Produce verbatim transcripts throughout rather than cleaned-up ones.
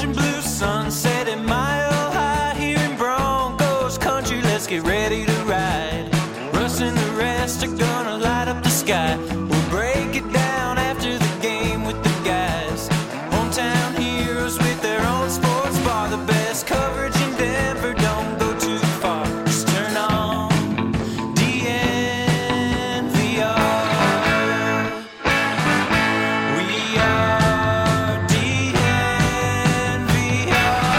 orange and blue sunset at Mile High here in Broncos country. Let's get ready to ride. Russ and the rest are gonna light up the sky. We'll break it down after the game with the guys. Hometown heroes with their own sports bar. The best coverage in Denver, don't go too far. Just turn on D N V R. We are D N V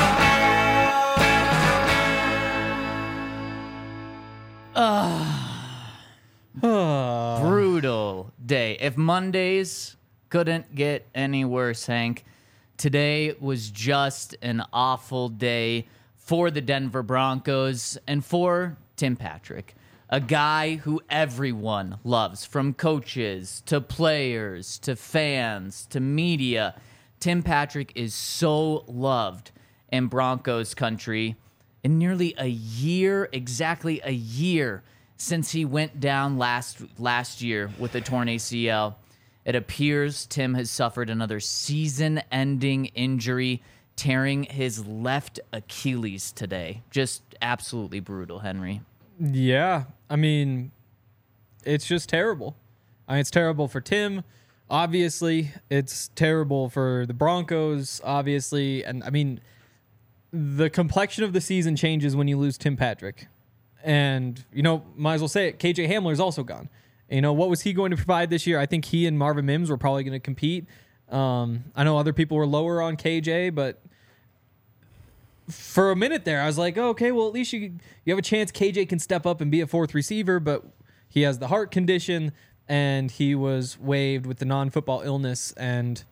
R. Brutal day. If Mondays couldn't get any worse, Hank, today was just an awful day for the Denver Broncos and for Tim Patrick, a guy who everyone loves, from coaches to players to fans to media. Tim Patrick is so loved in Broncos country. In nearly a year, exactly a year since he went down last last year with a torn A C L, it appears Tim has suffered another season-ending injury, tearing his left Achilles today. Just absolutely brutal, Henry. Yeah, I mean, it's just terrible. I mean, it's terrible for Tim, obviously. It's terrible for the Broncos, obviously. And, I mean, the complexion of the season changes when you lose Tim Patrick. And, you know, might as well say it, K J Hamler is also gone. You know, what was he going to provide this year? I think he and Marvin Mims were probably going to compete. Um, I know other people were lower on K J, but for a minute there, I was like, oh, okay, well, at least you you have a chance K J can step up and be a fourth receiver, but he has the heart condition, and he was waived with the non-football illness, and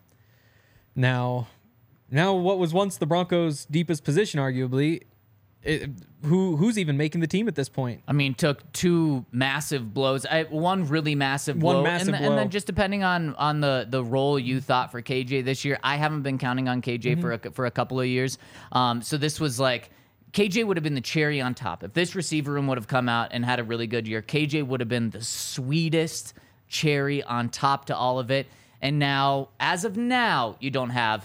now, now what was once the Broncos' deepest position, arguably, It, who who's even making the team at this point? I mean, took two massive blows. I, one really massive blow. One massive and, blow. And then just depending on on the, the role you thought for K J this year, I haven't been counting on K J mm-hmm. for a, for a couple of years. Um, so this was like, K J would have been the cherry on top. If this receiver room would have come out and had a really good year, K J would have been the sweetest cherry on top to all of it. And now, as of now, you don't have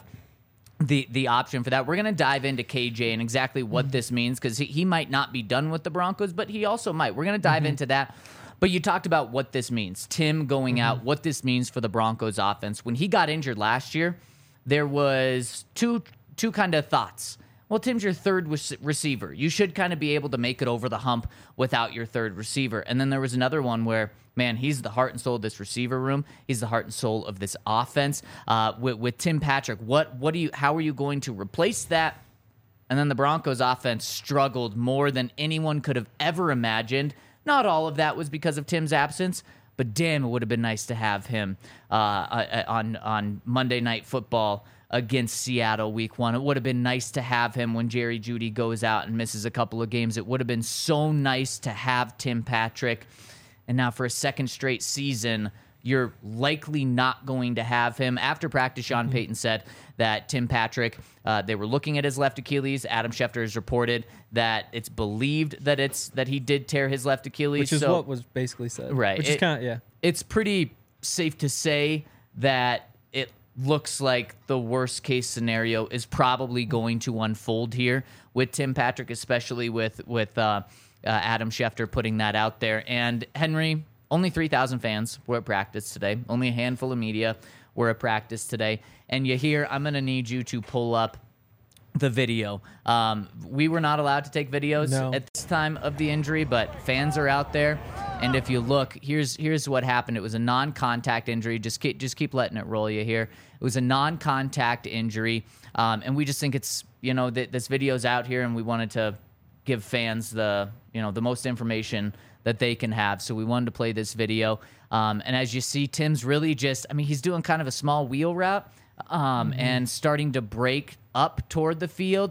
the the option for that. We're going to dive into K J and exactly what this means, because he, he might not be done with the Broncos, but he also might. We're going to dive mm-hmm. into that. But you talked about what this means. Tim going mm-hmm. out, what this means for the Broncos offense. When he got injured last year, there was two two kind of thoughts. Well, Tim's your third receiver. You should kind of be able to make it over the hump without your third receiver. And then there was another one where, man, he's the heart and soul of this receiver room. He's the heart and soul of this offense. Uh, with, with Tim Patrick, what what do you? How are you going to replace that? And then the Broncos offense struggled more than anyone could have ever imagined. Not all of that was because of Tim's absence, but damn, it would have been nice to have him uh, on on Monday Night Football against Seattle week one. It would have been nice to have him when Jerry Jeudy goes out and misses a couple of games. It would have been so nice to have Tim Patrick. And now for a second straight season, you're likely not going to have him. After practice, Sean Payton said that Tim Patrick, uh, they were looking at his left Achilles. Adam Schefter has reported that it's believed that it's that he did tear his left Achilles. Which is so, what was basically said. Right. Which it, is kind of, yeah. It's pretty safe to say that it looks like the worst case scenario is probably going to unfold here with Tim Patrick, especially with, with uh, uh, Adam Schefter putting that out there. And Henry, only three thousand fans were at practice today. Only a handful of media were at practice today. And you hear, I'm going to need you to pull up the video. Um, we were not allowed to take videos no. at this time of the injury, but fans are out there. And if you look, here's here's what happened. It was a non-contact injury. Just keep, just keep letting it roll you here. It was a non-contact injury. Um, and we just think it's, you know, th- this video's out here, and we wanted to give fans the, you know, the most information that they can have. So we wanted to play this video. Um, and as you see, Tim's really just, I mean, he's doing kind of a small wheel route um, mm-hmm. and starting to break up toward the field.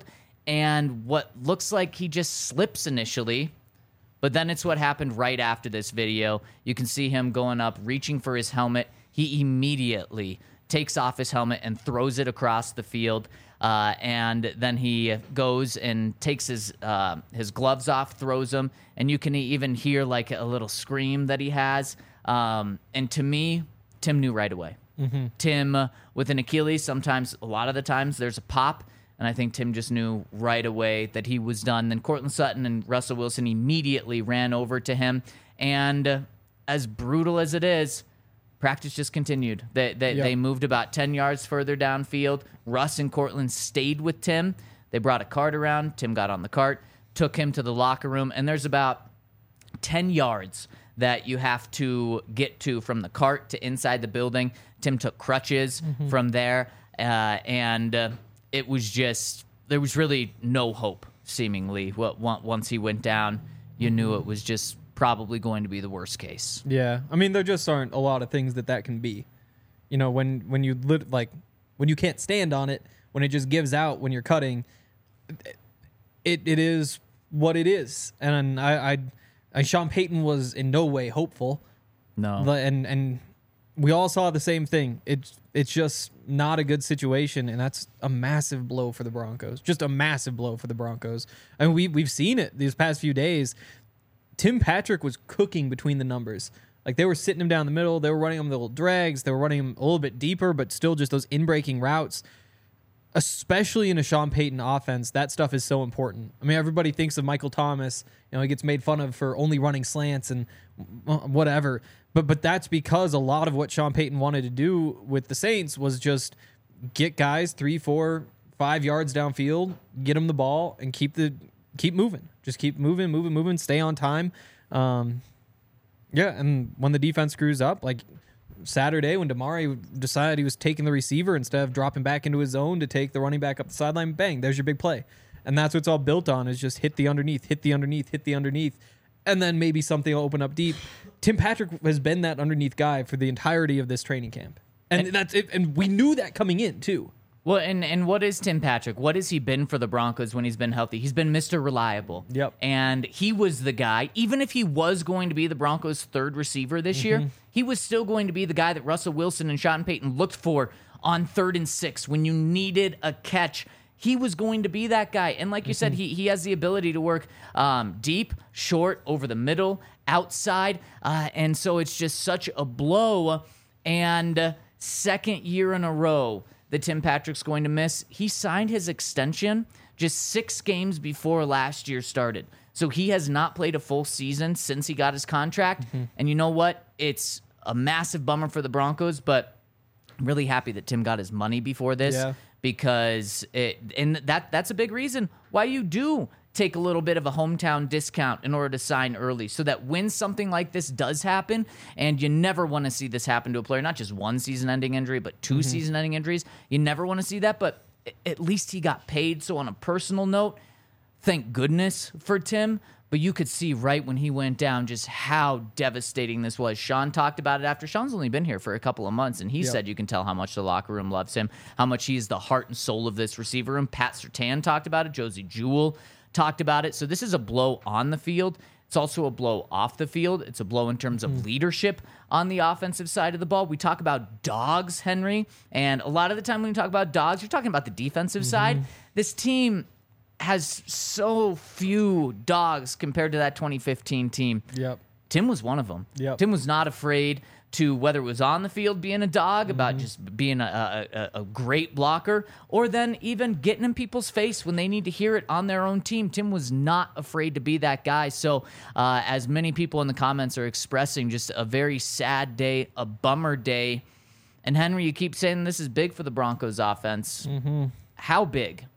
And what looks like he just slips initially, but then it's what happened right after this video. You can see him going up, reaching for his helmet. He immediately takes off his helmet and throws it across the field. Uh, and then he goes and takes his uh, his gloves off, throws them, and you can even hear like a little scream that he has. Um, and to me, Tim knew right away. Mm-hmm. Tim uh, with an Achilles, sometimes, a lot of the times, there's a pop. And I think Tim just knew right away that he was done. Then Cortland Sutton and Russell Wilson immediately ran over to him. And uh, as brutal as it is, practice just continued. They, they, Yep. they moved about ten yards further downfield. Russ and Cortland stayed with Tim. They brought a cart around. Tim got on the cart, took him to the locker room. And there's about ten yards that you have to get to from the cart to inside the building. Tim took crutches mm-hmm. from there. Uh, and... Uh, It was just, there was really no hope, seemingly. What once he went down, you knew it was just probably going to be the worst case. Yeah. I mean, there just aren't a lot of things that that can be. You know, when, when you, lit, like, when you can't stand on it, when it just gives out when you're cutting, it it is what it is. And I, I, I Sean Payton was in no way hopeful. No. And, and we all saw the same thing. It's, it's just not a good situation, and that's a massive blow for the Broncos. Just a massive blow for the Broncos. I mean, we, we've seen it these past few days. Tim Patrick was cooking between the numbers. Like, they were sitting him down the middle. They were running him little drags. They were running him a little bit deeper, but still just those in-breaking routes. Especially in a Sean Payton offense, that stuff is so important. I mean, everybody thinks of Michael Thomas. You know, he gets made fun of for only running slants and whatever. But but that's because a lot of what Sean Payton wanted to do with the Saints was just get guys three, four, five yards downfield, get them the ball, and keep the keep moving. Just keep moving, moving, moving. Stay on time. Um, yeah, and when the defense screws up, like Saturday when Damari decided he was taking the receiver instead of dropping back into his zone to take the running back up the sideline, bang, there's your big play. And that's what it's all built on, is just hit the underneath, hit the underneath, hit the underneath, and then maybe something will open up deep. Tim Patrick has been that underneath guy for the entirety of this training camp. And, and that's it. And we knew that coming in, too. Well, and, and what is Tim Patrick? What has he been for the Broncos when he's been healthy? He's been Mister Reliable. Yep. And he was the guy, even if he was going to be the Broncos' third receiver this mm-hmm. year, he was still going to be the guy that Russell Wilson and Sean Payton looked for on third and six when you needed a catch. He was going to be that guy. And like you mm-hmm. said, he he has the ability to work um, deep, short, over the middle, outside. Uh, and so it's just such a blow. And uh, second year in a row that Tim Patrick's going to miss. He signed his extension just six games before last year started. So he has not played a full season since he got his contract. Mm-hmm. And you know what? It's a massive bummer for the Broncos, but I'm really happy that Tim got his money before this yeah. because it, and that that's a big reason why you do take a little bit of a hometown discount in order to sign early, so that when something like this does happen, and you never want to see this happen to a player, not just one season-ending injury, but two mm-hmm. season-ending injuries, you never want to see that, but at least he got paid. So on a personal note, thank goodness for Tim, but you could see right when he went down just how devastating this was. Sean talked about it after. Sean's only been here for a couple of months, and he yep. said you can tell how much the locker room loves him, how much he's the heart and soul of this receiver room. Pat Surtain talked about it. Josie Jewell talked about it. So this is a blow on the field. It's also a blow off the field. It's a blow in terms of mm. leadership on the offensive side of the ball. We talk about dogs, Henry, and a lot of the time when you talk about dogs, you're talking about the defensive mm-hmm. side. This team has so few dogs compared to that twenty fifteen team. Yep. Tim was one of them. Yep. Tim was not afraid to, whether it was on the field being a dog, mm-hmm. about just being a, a, a great blocker, or then even getting in people's face when they need to hear it on their own team. Tim was not afraid to be that guy. So uh, as many people in the comments are expressing, just a very sad day, a bummer day. And Henry, you keep saying this is big for the Broncos offense. Mm-hmm. How big?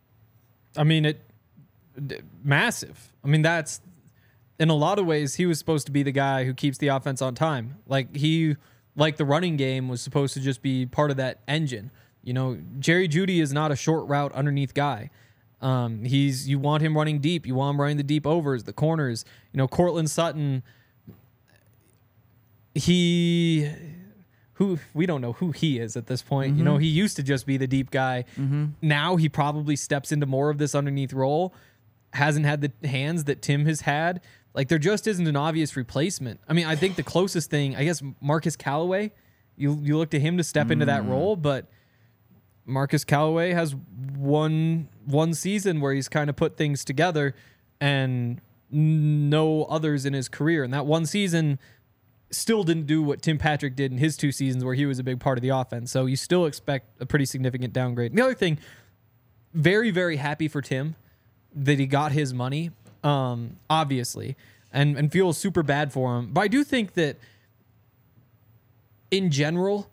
I mean, it d- massive. I mean, that's, in a lot of ways, he was supposed to be the guy who keeps the offense on time. Like he, like the running game was supposed to just be part of that engine. You know, Jerry Jeudy is not a short route underneath guy. Um, he's you want him running deep. You want him running the deep overs, the corners. You know, Cortland Sutton. He, who we don't know who he is at this point. Mm-hmm. You know, he used to just be the deep guy. Mm-hmm. Now he probably steps into more of this underneath role. Hasn't had the hands that Tim has had. Like, there just isn't an obvious replacement. I mean, I think the closest thing, I guess, Marcus Callaway, you you look to him to step mm. into that role, but Marcus Callaway has one one season where he's kind of put things together and no others in his career. And that one season still didn't do what Tim Patrick did in his two seasons where he was a big part of the offense. So you still expect a pretty significant downgrade. And the other thing, very, very happy for Tim that he got his money, um, obviously, and, and feel super bad for him. But I do think that in general,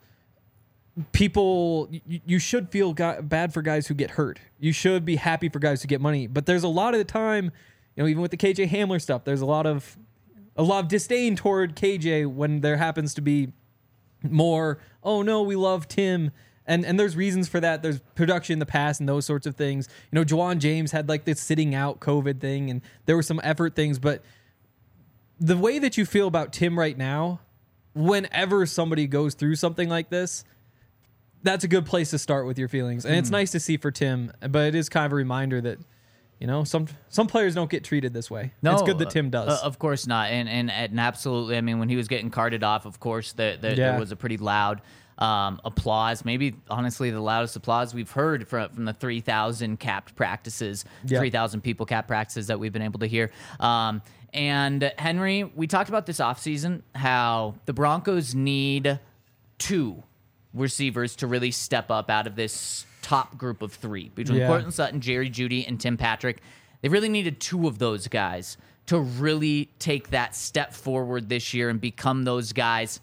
people, you, you should feel guy, bad for guys who get hurt. You should be happy for guys who get money. But there's a lot of the time, you know, even with the K J Hamler stuff, there's a lot of a lot of disdain toward K J when there happens to be more, oh no, we love Tim. And and there's reasons for that. There's production in the past and those sorts of things. You know, Juwan James had like this sitting out COVID thing, and there were some effort things. But the way that you feel about Tim right now, whenever somebody goes through something like this, that's a good place to start with your feelings. And mm. it's nice to see for Tim, but it is kind of a reminder that, you know, some some players don't get treated this way. No, it's good that Tim does. Uh, of course not. And, and and absolutely, I mean, when he was getting carted off, of course, the, the, yeah. there was a pretty loud um, applause. Maybe, honestly, the loudest applause we've heard from, from the three thousand capped practices, yep. three thousand people capped practices that we've been able to hear. Um, and, Henry, we talked about this offseason, how the Broncos need two receivers to really step up out of this top group of three between yeah. Courtland Sutton, Jerry Jeudy, and Tim Patrick. They really needed two of those guys to really take that step forward this year and become those guys.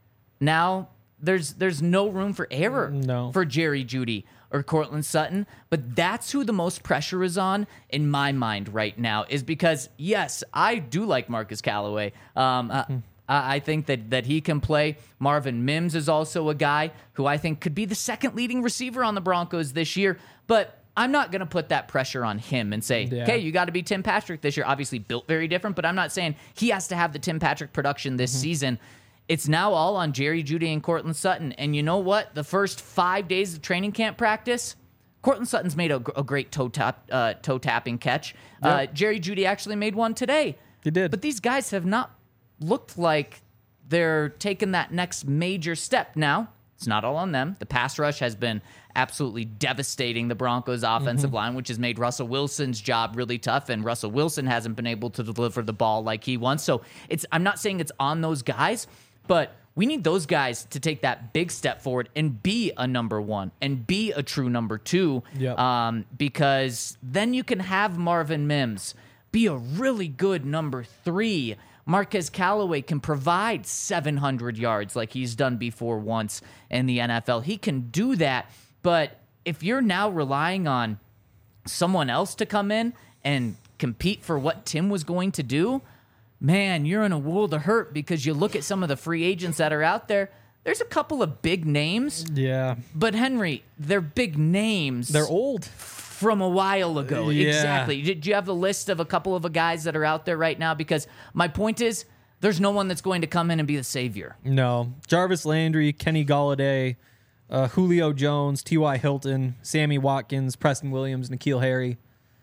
Now there's there's no room for error no. for Jerry Jeudy or Courtland Sutton, but that's who the most pressure is on in my mind right now, is because yes, I do like Marcus Callaway. Um, uh, mm. I think that, that he can play. Marvin Mims is also a guy who I think could be the second leading receiver on the Broncos this year. But I'm not going to put that pressure on him and say, yeah. okay, you got to be Tim Patrick this year. Obviously built very different, but I'm not saying he has to have the Tim Patrick production this mm-hmm. season. It's now all on Jerry Jeudy and Courtland Sutton. And you know what? The first five days of training camp practice, Courtland Sutton's made a, a great toe, tap, uh, toe tapping catch. Yep. Uh, Jerry Jeudy actually made one today. He did. But these guys have not looked like they're taking that next major step. Now, it's not all on them. The pass rush has been absolutely devastating the Broncos' offensive mm-hmm. line, which has made Russell Wilson's job really tough, and Russell Wilson hasn't been able to deliver the ball like he wants. So it's I'm not saying it's on those guys, but we need those guys to take that big step forward and be a number one and be a true number two, yep. um, because then you can have Marvin Mims be a really good number three. Marquez Callaway can provide seven hundred yards like he's done before once in the N F L. He can do that, but if you're now relying on someone else to come in and compete for what Tim was going to do, man, you're in a world of hurt, because you look at some of the free agents that are out there. There's a couple of big names. Yeah. But, Henry, they're big names. They're old. From a while ago. Yeah. Exactly. Do you have the list of a couple of guys that are out there right now? Because my point is, there's no one that's going to come in and be the savior. No. Jarvis Landry, Kenny Golladay, uh, Julio Jones, T Y. Hilton, Sammy Watkins, Preston Williams, N'Keal Harry.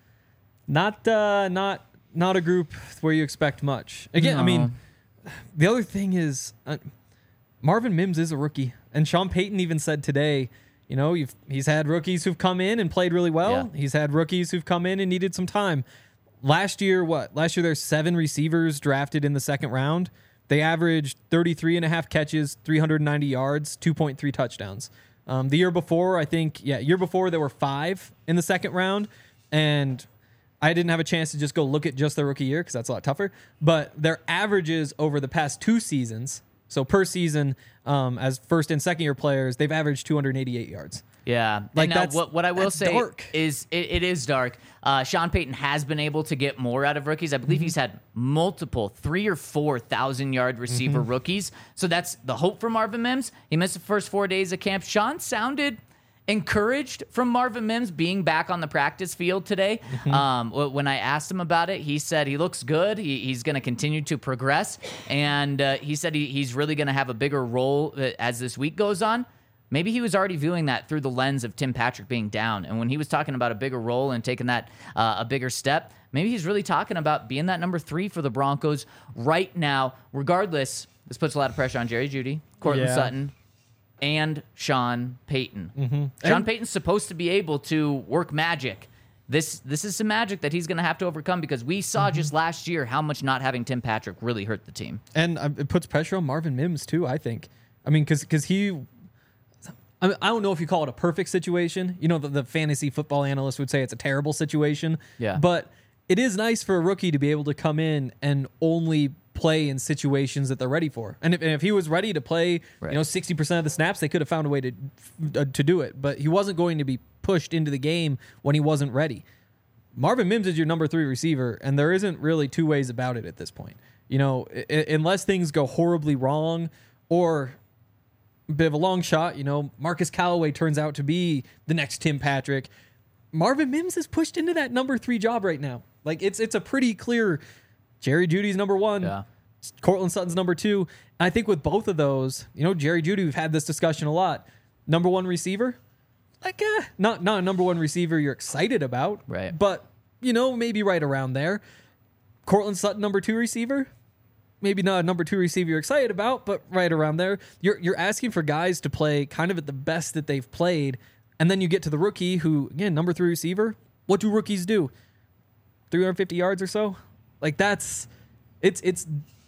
Not, uh, not, not a group where you expect much. Again, no. I mean, the other thing is, uh, Marvin Mims is a rookie, and Sean Payton even said today, you know, you've, he's had rookies who've come in and played really well. Yeah. He's had rookies who've come in and needed some time. Last year, what? Last year, there's seven receivers drafted in the second round. They averaged thirty-three and a half catches, three hundred ninety yards, two point three touchdowns. Um, the year before, I think, yeah, year before there were five in the second round. And I didn't have a chance to just go look at just their rookie year because that's a lot tougher. But their averages over the past two seasons, so per season, um, as first and second year players, they've averaged two hundred eighty-eight yards. Yeah. Like and now that's, what, what I will that's say dark. is it, it is dark. Uh, Sean Payton has been able to get more out of rookies. I believe mm-hmm. he's had multiple three or four thousand yard receiver mm-hmm. rookies. So that's the hope for Marvin Mims. He missed the first four days of camp. Sean sounded encouraged from Marvin Mims being back on the practice field today. Mm-hmm. Um, when I asked him about it, he said he looks good. He, he's going to continue to progress. And uh, he said he, he's really going to have a bigger role as this week goes on. Maybe he was already viewing that through the lens of Tim Patrick being down. And when he was talking about a bigger role and taking that uh, a bigger step, maybe he's really talking about being that number three for the Broncos right now. Regardless, this puts a lot of pressure on Jerry Jeudy, Courtland yeah. Sutton, and Sean Payton. Mm-hmm. Sean and- Payton's supposed to be able to work magic. This this is some magic that he's going to have to overcome, because we saw mm-hmm. just last year how much not having Tim Patrick really hurt the team. And uh, it puts pressure on Marvin Mims too, I think. I mean, because because he... I mean, I don't know if you call it a perfect situation. You know, the, the fantasy football analyst would say it's a terrible situation. Yeah. But it is nice for a rookie to be able to come in and only play in situations that they're ready for. And if, and if he was ready to play, Right. you know, sixty percent of the snaps, they could have found a way to uh, to do it. But he wasn't going to be pushed into the game when he wasn't ready. Marvin Mims is your number three receiver, and there isn't really two ways about it at this point. You know, I- unless things go horribly wrong or a bit of a long shot, you know, Marcus Callaway turns out to be the next Tim Patrick. Marvin Mims is pushed into that number three job right now. Like, it's it's a pretty clear Jerry Jeudy's number one. Yeah. Cortland Sutton's number two. And I think with both of those, you know, Jerry Jeudy, we've had this discussion a lot. Number one receiver, like, eh, not, not a number one receiver you're excited about. Right. But, you know, maybe right around there. Cortland Sutton, number two receiver. Maybe not a number two receiver you're excited about, but right around there. You're you're asking for guys to play kind of at the best that they've played. And then you get to the rookie who, again, number three receiver. What do rookies do? three hundred fifty yards or so? Like, that's, it's, it's,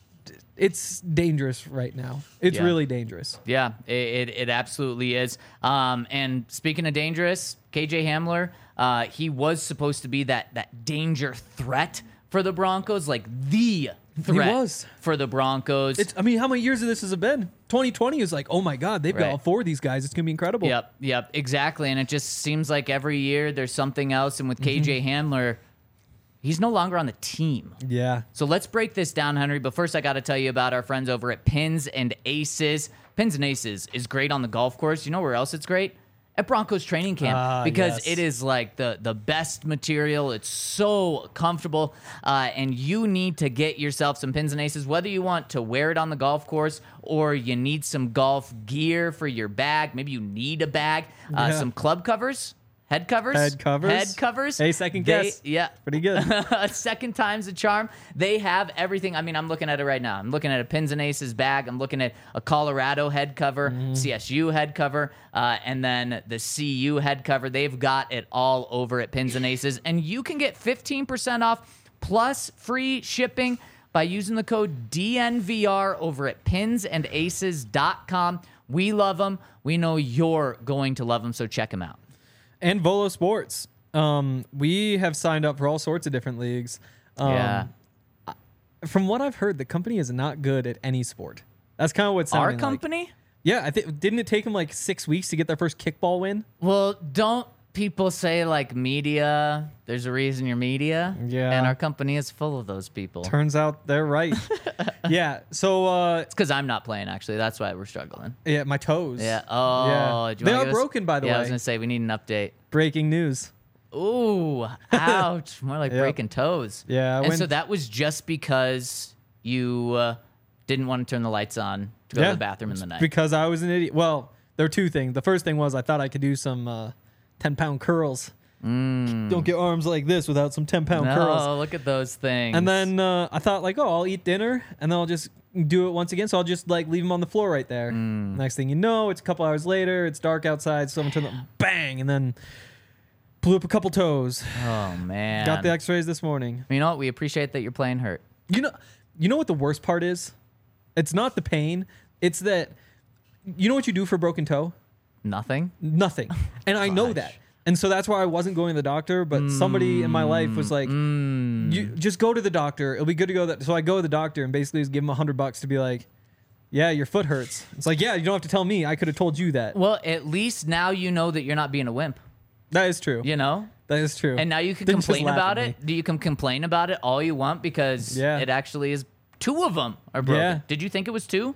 it's dangerous right now. It's Yeah. really dangerous. Yeah, it, it, it absolutely is. Um, and speaking of dangerous, K J Hamler, uh, he was supposed to be that that danger threat for the Broncos, like the threat was. for the Broncos. It's, I mean, how many years of this has it been? twenty twenty is like, oh my God, they've got Right. all four of these guys. It's going to be incredible. Yep, yep, exactly. And it just seems like every year there's something else. And with K J Hamler, he's no longer on the team. Yeah. So let's break this down, Henry. But first, I got to tell you about our friends over at Pins and Aces. Pins and Aces is great on the golf course. You know where else it's great? At Broncos training camp, Ah, because yes. it is like the, the best material. It's so comfortable, uh, and you need to get yourself some Pins and Aces, whether you want to wear it on the golf course or you need some golf gear for your bag. Maybe you need a bag, uh, Yeah. some club covers. Head covers? Head covers. Head covers. Hey, second They- guess. Yeah. Pretty good. Second time's a charm. They have everything. I mean, I'm looking at it right now. I'm looking at a Pins and Aces bag. I'm looking at a Colorado head cover, Mm-hmm. C S U head cover, uh, and then the C U head cover. They've got it all over at Pins and Aces. And you can get fifteen percent off plus free shipping by using the code D N V R over at pins and aces dot com. We love them. We know you're going to love them, so check them out. And Volo Sports. Um, we have signed up for all sorts of different leagues. Um, Yeah. From what I've heard, the company is not good at any sport. That's kind of what it's Our sounding like. company? Yeah, I think didn't it take them like six weeks to get their first kickball win? Well, don't people say like media? There's a reason you're media. Yeah. And our company is full of those people. Turns out they're right. yeah. So uh, It's because I'm not playing, actually. That's why we're struggling. yeah, my toes. Yeah. Oh, Yeah. do you They wanna are give us- broken, by the yeah, I way. was going to say, we need an update. Breaking news. Ooh, ouch. More like Yep. breaking toes. Yeah, I And went- so that was just because you uh, didn't want to turn the lights on to go to the bathroom in the night. Because I was an idiot. Well, there were two things. The first thing was I thought I could do some uh, ten pound curls. Don't get arms like this without some ten pound no, curls. look at those things. And then uh, I thought like, oh, I'll eat dinner and then I'll just do it once again. So I'll just like leave them on the floor right there. Mm. Next thing you know, it's a couple hours later. It's dark outside. Someone turned the bang and then blew up a couple toes. Oh, man. Got the X-rays this morning. You know what? We appreciate that you're playing hurt. You know, you know what the worst part is? It's not the pain. It's that you know what you do for a broken toe? Nothing? Nothing. And I know Gosh. that. And so that's why I wasn't going to the doctor, but somebody in my life was like, Mm. you just go to the doctor. It'll be good to go. That. So I go to the doctor and basically just give him a hundred bucks to be like, yeah, your foot hurts. It's like, yeah, you don't have to tell me. I could have told you that. Well, at least now you know that you're not being a wimp, That is true. you know? That is true. And now you can Didn't just complain laugh about at it. Do you can complain about it all you want because Yeah. it actually is two of them are broken. Yeah. Did you think it was two?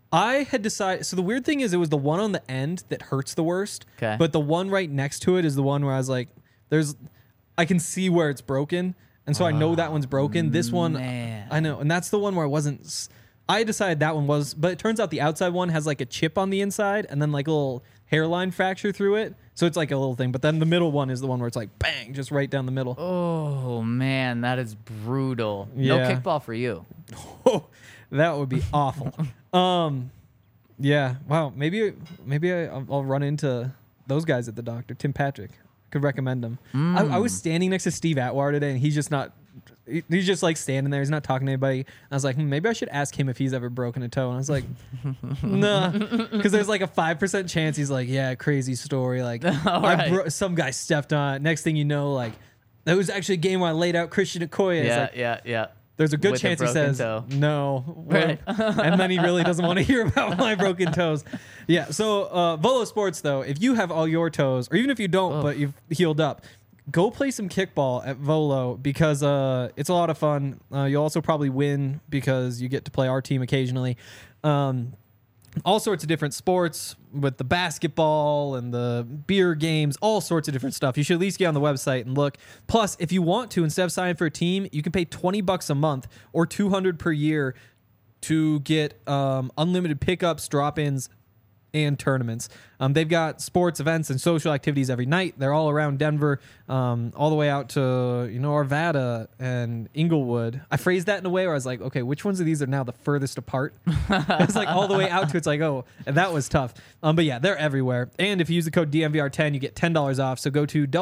I had decided. So the weird thing is, it was the one on the end that hurts the worst. 'Kay. But the one right next to it is the one where I was like, "There's, I can see where it's broken, and so I know that one's broken. This one, man. I know, and that's the one where I wasn't. s- I decided that one was, but it turns out the outside one has like a chip on the inside, and then like a little hairline fracture through it. So it's like a little thing. But then the middle one is the one where it's like bang, just right down the middle. Oh, man, that is brutal. No Yeah. kickball for you. Oh, that would be awful. Um, yeah. Wow. Maybe maybe I, I'll I'll run into those guys at the doctor. Tim Patrick could recommend him. I, I was standing next to Steve Atwater today, and he's just not he- he's just like standing there. He's not talking to anybody. I was like, hmm, maybe I should ask him if he's ever broken a toe. And I was like, nah, because there's like a five percent chance he's like, yeah, crazy story. Like I right. bro- some guy stepped on it. Next thing you know, like that was actually a game where I laid out Christian Okoye. It's Yeah, like, yeah, yeah. there's a good With a chance he broken says toe. no, Right. and then he really doesn't want to hear about my broken toes. Yeah. So uh, Volo Sports, though, if you have all your toes, or even if you don't, Oh. but you've healed up, go play some kickball at Volo because uh, it's a lot of fun. Uh, you'll also probably win because you get to play our team occasionally. Um, all sorts of different sports with the basketball and the beer games, all sorts of different stuff. You should at least get on the website and look. Plus, if you want to, instead of signing for a team, you can pay twenty bucks a month or two hundred per year to get um, unlimited pickups, drop-ins, and tournaments. Um, they've got sports events and social activities every night. They're all around Denver, um, all the way out to, you know, Arvada and Inglewood. I phrased that in a way where I was like, okay, which ones of these are now the furthest apart? It's like all the way out to, it's like, oh, and that was tough. Um, but yeah, they're everywhere. And if you use the code D M V R ten, you get ten dollars off. So go to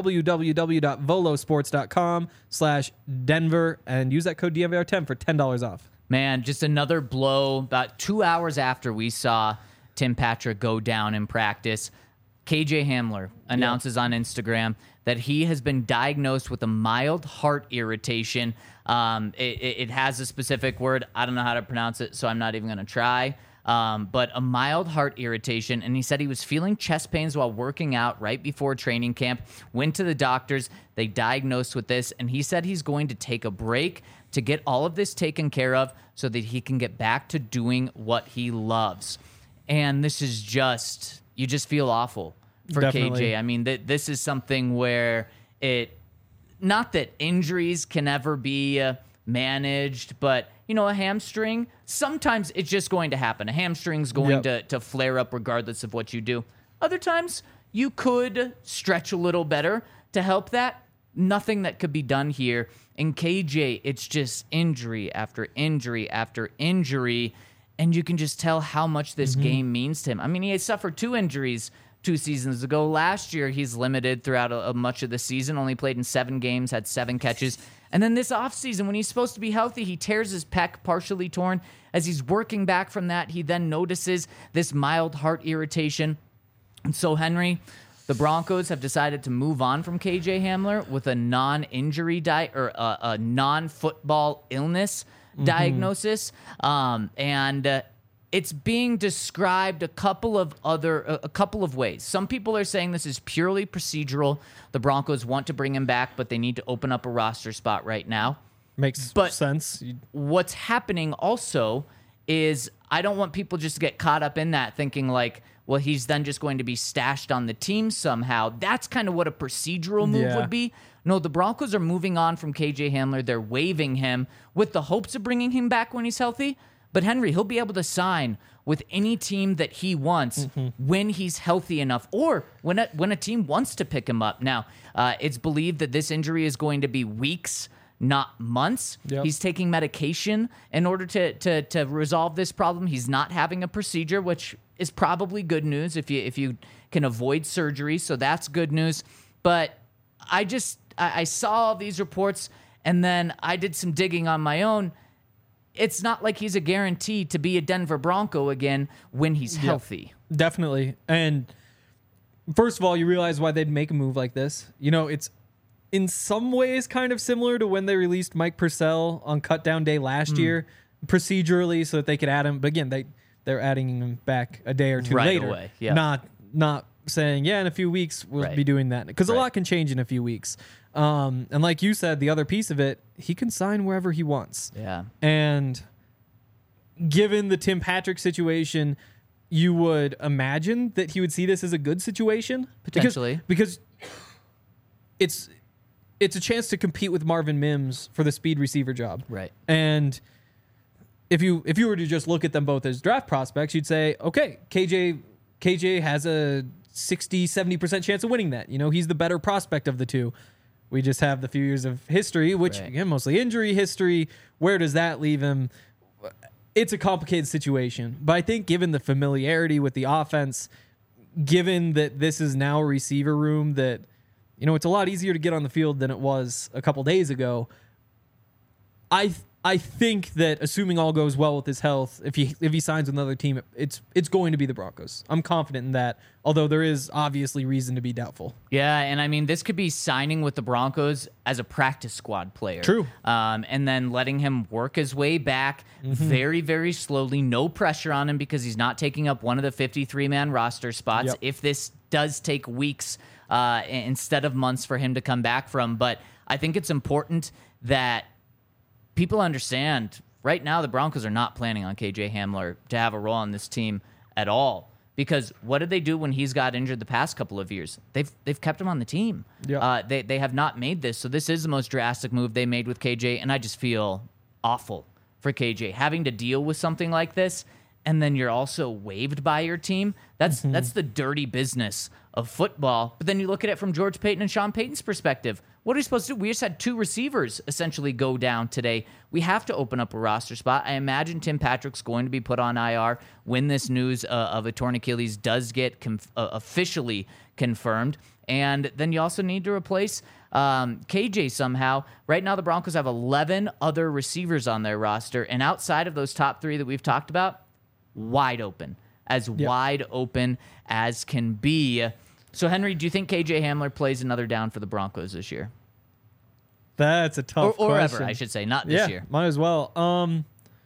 www.volosports.com slash Denver and use that code D M V R ten for ten dollars off. Man, just another blow. About two hours after we saw Tim Patrick go down in practice, K J Hamler announces on Instagram that he has been diagnosed with a mild heart irritation. Um, it, it, it has a specific word. I don't know how to pronounce it, so I'm not even going to try. Um, but a mild heart irritation, and he said he was feeling chest pains while working out right before training camp. Went to the doctors. They diagnosed with this, and he said he's going to take a break to get all of this taken care of so that he can get back to doing what he loves. And this is just, you just feel awful for Definitely. K J. I mean, th- this is something where it, not that injuries can ever be uh, managed, but, you know, a hamstring, sometimes it's just going to happen. A hamstring's going Yep. to, to flare up regardless of what you do. Other times, you could stretch a little better to help that. Nothing that could be done here. In K J, it's just injury after injury after injury. And you can just tell how much this Mm-hmm. game means to him. I mean, he had suffered two injuries two seasons ago. Last year, he's limited throughout a, a much of the season, only played in seven games, had seven catches. And then this offseason, when he's supposed to be healthy, he tears his pec, partially torn. As he's working back from that, he then notices this mild heart irritation. And so, Henry, the Broncos have decided to move on from K J Hamler with a non-injury di- or a, a non-football illness diagnosis, um, and uh, it's being described a couple of other a, a couple of ways. Some people are saying this is purely procedural. The Broncos want to bring him back, but they need to open up a roster spot right now. Makes But- sense. You- What's happening also is I don't want people just to get caught up in that thinking like, well, he's then just going to be stashed on the team somehow. That's kind of what a procedural move Yeah. would be. No, the Broncos are moving on from K J Hamler. They're waiving him with the hopes of bringing him back when he's healthy. But Henry, he'll be able to sign with any team that he wants Mm-hmm. when he's healthy enough, or when a, when a team wants to pick him up. Now, uh, it's believed that this injury is going to be weeks, not months. Yep. He's taking medication in order to, to to resolve this problem. He's not having a procedure, which is probably good news if you if you can avoid surgery. So that's good news. But I just I, I saw all these reports, and then I did some digging on my own. It's not like he's a guarantee to be a Denver Bronco again when he's healthy. Definitely. And first of all, you realize why they'd make a move like this. You know, it's in some ways kind of similar to when they released Mike Purcell on Cut Down Day last Hmm. year, procedurally, so that they could add him. But again, they they're adding him back a day or two Right later. away, yeah. Not not saying, yeah, in a few weeks we'll Right. be doing that. Because a Right. lot can change in a few weeks. Um, and like you said, the other piece of it, he can sign wherever he wants. Yeah. And given the Tim Patrick situation, you would imagine that he would see this as a good situation. Because- Potentially. Because, it's it's a chance to compete with Marvin Mims for the speed receiver job. Right. And if you if you were to just look at them both as draft prospects, you'd say, okay, K J K J has a sixty, seventy percent chance of winning that. You know, he's the better prospect of the two. We just have the few years of history, which, Right. again, mostly injury history. Where does that leave him? It's a complicated situation. But I think given the familiarity with the offense, given that this is now a receiver room that, you know, it's a lot easier to get on the field than it was a couple days ago, I I think that assuming all goes well with his health, if he if he signs with another team, it's it's going to be the Broncos. I'm confident in that, although there is obviously reason to be doubtful. Yeah, and I mean, this could be signing with the Broncos as a practice squad player. True. Um, and then letting him work his way back Mm-hmm. very, very slowly. No pressure on him because he's not taking up one of the fifty-three man roster spots. Yep. If this does take weeks uh, instead of months for him to come back from. But I think it's important that people understand right now the Broncos are not planning on K J Hamler to have a role on this team at all. Because what did they do when he's got injured the past couple of years? They've they've kept him on the team. Yeah. Uh, they they have not made this. So this is the most drastic move they made with K J, and I just feel awful for K J having to deal with something like this, and then you're also waived by your team. That's Mm-hmm. that's the dirty business of football. But then you look at it from George Payton and Sean Payton's perspective. What are we supposed to do? We just had two receivers essentially go down today. We have to open up a roster spot. I imagine Tim Patrick's going to be put on I R when this news uh, of a torn Achilles does get conf- uh, officially confirmed. And then you also need to replace um, K J somehow. Right now, the Broncos have eleven other receivers on their roster. And outside of those top three that we've talked about, wide open. As Yep. wide open as can be. So, Henry, do you think K J Hamler plays another down for the Broncos this year? That's a Or, tough or question. ever, I should say, not this yeah, year. might as well. Um,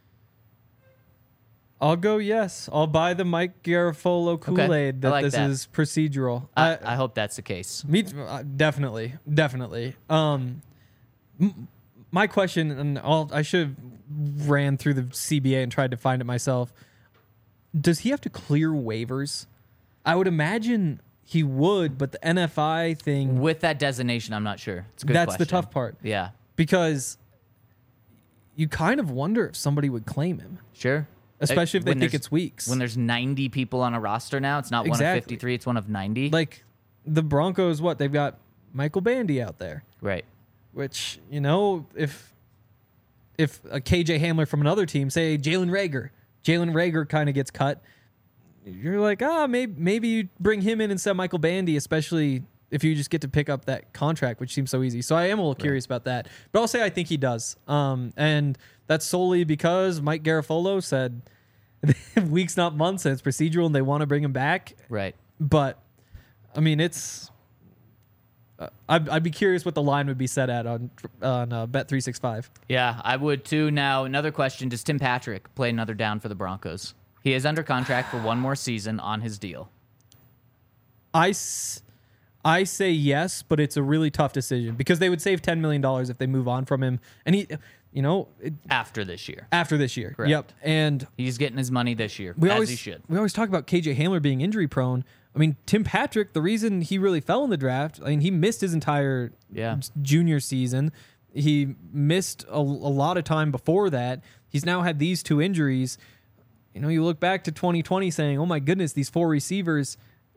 I'll go yes. I'll buy the Mike Garafolo Kool-Aid I that like this that. is procedural. I, I hope that's the case. Me, uh, definitely, definitely. Um, m- my question, and I'll, I should have ran through the C B A and tried to find it myself. Does he have to clear waivers? I would imagine he would, but the N F I thing, With that designation, I'm not sure. It's a good that's question. the tough part. Yeah, Because you kind of wonder if somebody would claim him, sure. especially if they When think there's- it's weeks. When there's ninety people on a roster now, it's not one of Exactly. fifty-three, it's one of ninety. Like the Broncos, what they've got Michael Bandy out there. right. Which, you know, if if a K J Hamler from another team, say Jalen Reagor, Jalen Reagor kind of gets cut, you're like, ah, maybe maybe you bring him in instead of Michael Bandy, especially if you just get to pick up that contract, which seems so easy. So I am a little curious about that. But I'll say I think he does. Um, and that's solely because Mike Garafolo said weeks, not months, and it's procedural and they want to bring him back. Right. But, I mean, it's... Uh, I'd, I'd be curious what the line would be set at on on uh, Bet three sixty-five. Yeah, I would too. Now, another question. Does Tim Patrick play another down for the Broncos? He is under contract for one more season on his deal. I, s- I say yes, but it's a really tough decision because they would save ten million dollars if they move on from him. And he, you know, it, After this year. after this year. Correct. Yep. And He's getting his money this year, we as always he should. we always talk about K J Hamler being injury prone. I mean, Tim Patrick, the reason he really fell in the draft, I mean, he missed his entire Yeah. junior season. He missed a, a lot of time before that. He's now had these two injuries. You know, you look back to twenty twenty saying, oh my goodness, these four receivers,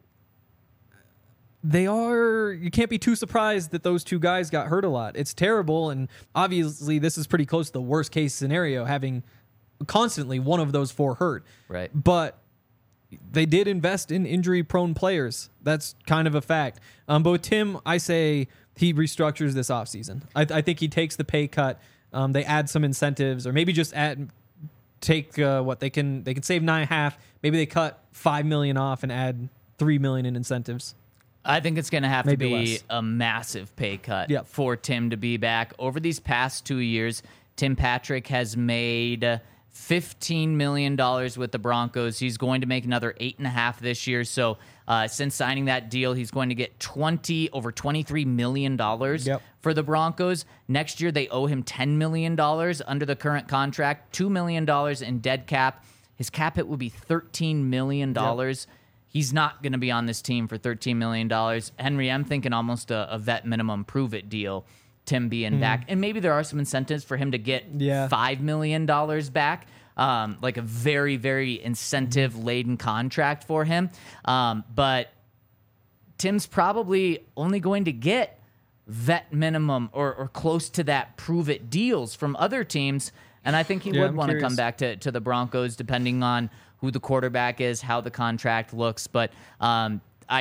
they are, you can't be too surprised that those two guys got hurt a lot. It's terrible. And obviously, this is pretty close to the worst case scenario, having constantly one of those four hurt. Right. But they did invest in injury-prone players. That's kind of a fact. Um, but with Tim, I say he restructures this offseason. I, I think he takes the pay cut. Um, they add some incentives, or maybe just add take uh, what they can. They can save nine and a half. Maybe they cut five million off and add three million in incentives. I think it's going to have Maybe to be less. a massive pay cut Yep. for Tim to be back. Over these past two years, Tim Patrick has made fifteen million dollars with the Broncos. He's going to make another eight and a half this year. So uh, since signing that deal, he's going to get twenty over twenty-three million dollars Yep. for the Broncos. Next year, they owe him ten million dollars under the current contract, two million dollars in dead cap. His cap hit will be thirteen million dollars. Yep. He's not going to be on this team for thirteen million dollars. Henry, I'm thinking almost a, a vet minimum prove-it deal, Tim being back. And maybe there are some incentives for him to get Yeah. five million dollars back, um, like a very, very incentive-laden contract for him. Um, but Tim's probably only going to get vet minimum or, or close to that prove-it deals from other teams. And I think he Yeah, would I'm want to curious. come back to, to the Broncos, depending on who the quarterback is, how the contract looks. But um, I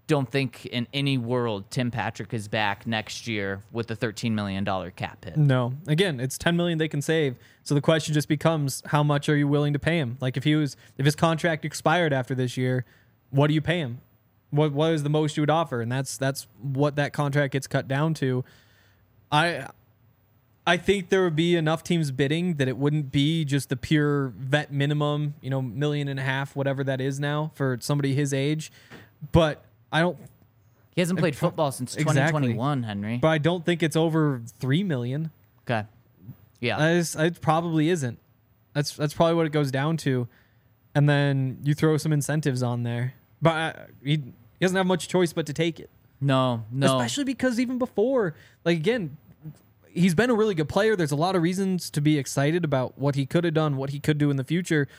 don't think in any world Tim Patrick is back next year with a thirteen million dollars cap hit. No. Again, it's ten million dollars they can save. So the question just becomes, how much are you willing to pay him? Like if he was, if his contract expired after this year, what do you pay him? What what is the most you would offer? And that's that's what that contract gets cut down to. I I think there would be enough teams bidding that it wouldn't be just the pure vet minimum, you know, million and a half, whatever that is now for somebody his age. But I don't. He hasn't played football since Exactly. twenty twenty-one, Henry. But I don't think it's over three million. Okay. Yeah. I just, it probably isn't. That's that's probably what it goes down to, and then you throw some incentives on there. But uh, he, he doesn't have much choice but to take it. No, no. Especially because even before, like again, he's been a really good player. There's a lot of reasons to be excited about what he could have done, what he could do in the future.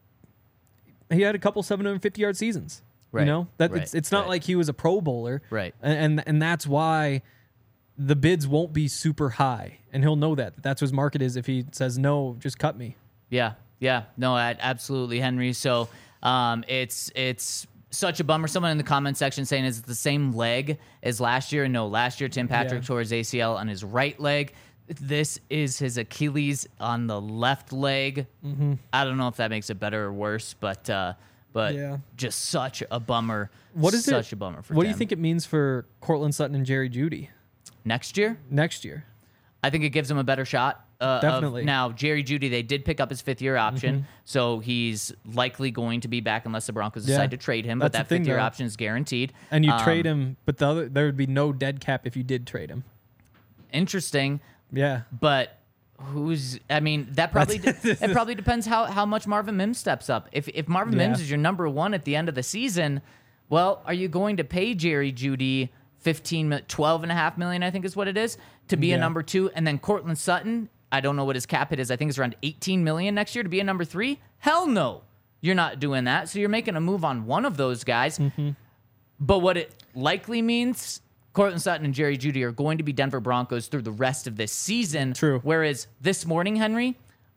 He had a couple seven hundred fifty yard seasons. Right. You know that right. it's it's not right. like he was a Pro Bowler. Right. And, and and that's why the bids won't be super high, and he'll know that. That's what his market is. If he says no, just cut me. Yeah, yeah, no, absolutely, Henry. So um, it's it's such a bummer. Someone in the comment section saying is it the same leg as last year? No, last year Tim Patrick Yeah. tore his A C L on his right leg. This is his Achilles on the left leg. Mm-hmm. I don't know if that makes it better or worse, but uh, but Yeah. just such a bummer. What is such it? a bummer for What Tim. do you think it means for Cortland Sutton and Jerry Jeudy next year? next year? I think it gives him a better shot. Uh, Definitely. Of, now, Jerry Jeudy, they did pick up his fifth year option, Mm-hmm. so he's likely going to be back unless the Broncos Yeah. decide to trade him. That's But that the thing, fifth year though. option is guaranteed. And you Um, trade him, but the other, there would be no dead cap if you did trade him. Interesting, Yeah. but who's? I mean, that probably it probably depends how, how much Marvin Mims steps up. If if Marvin Yeah. Mims is your number one at the end of the season, well, are you going to pay Jerry Jeudy fifteen, mi- twelve and a half million, I think is what it is, to be Yeah. a number two, and then Cortland Sutton? I don't know what his cap hit is. I think it's around eighteen million next year to be a number three. Hell no, you're not doing that. So you're making a move on one of those guys. Mm-hmm. But what it likely means, Cortland Sutton and Jerry Jeudy are going to be Denver Broncos through the rest of this season. True. Whereas this morning, Henry,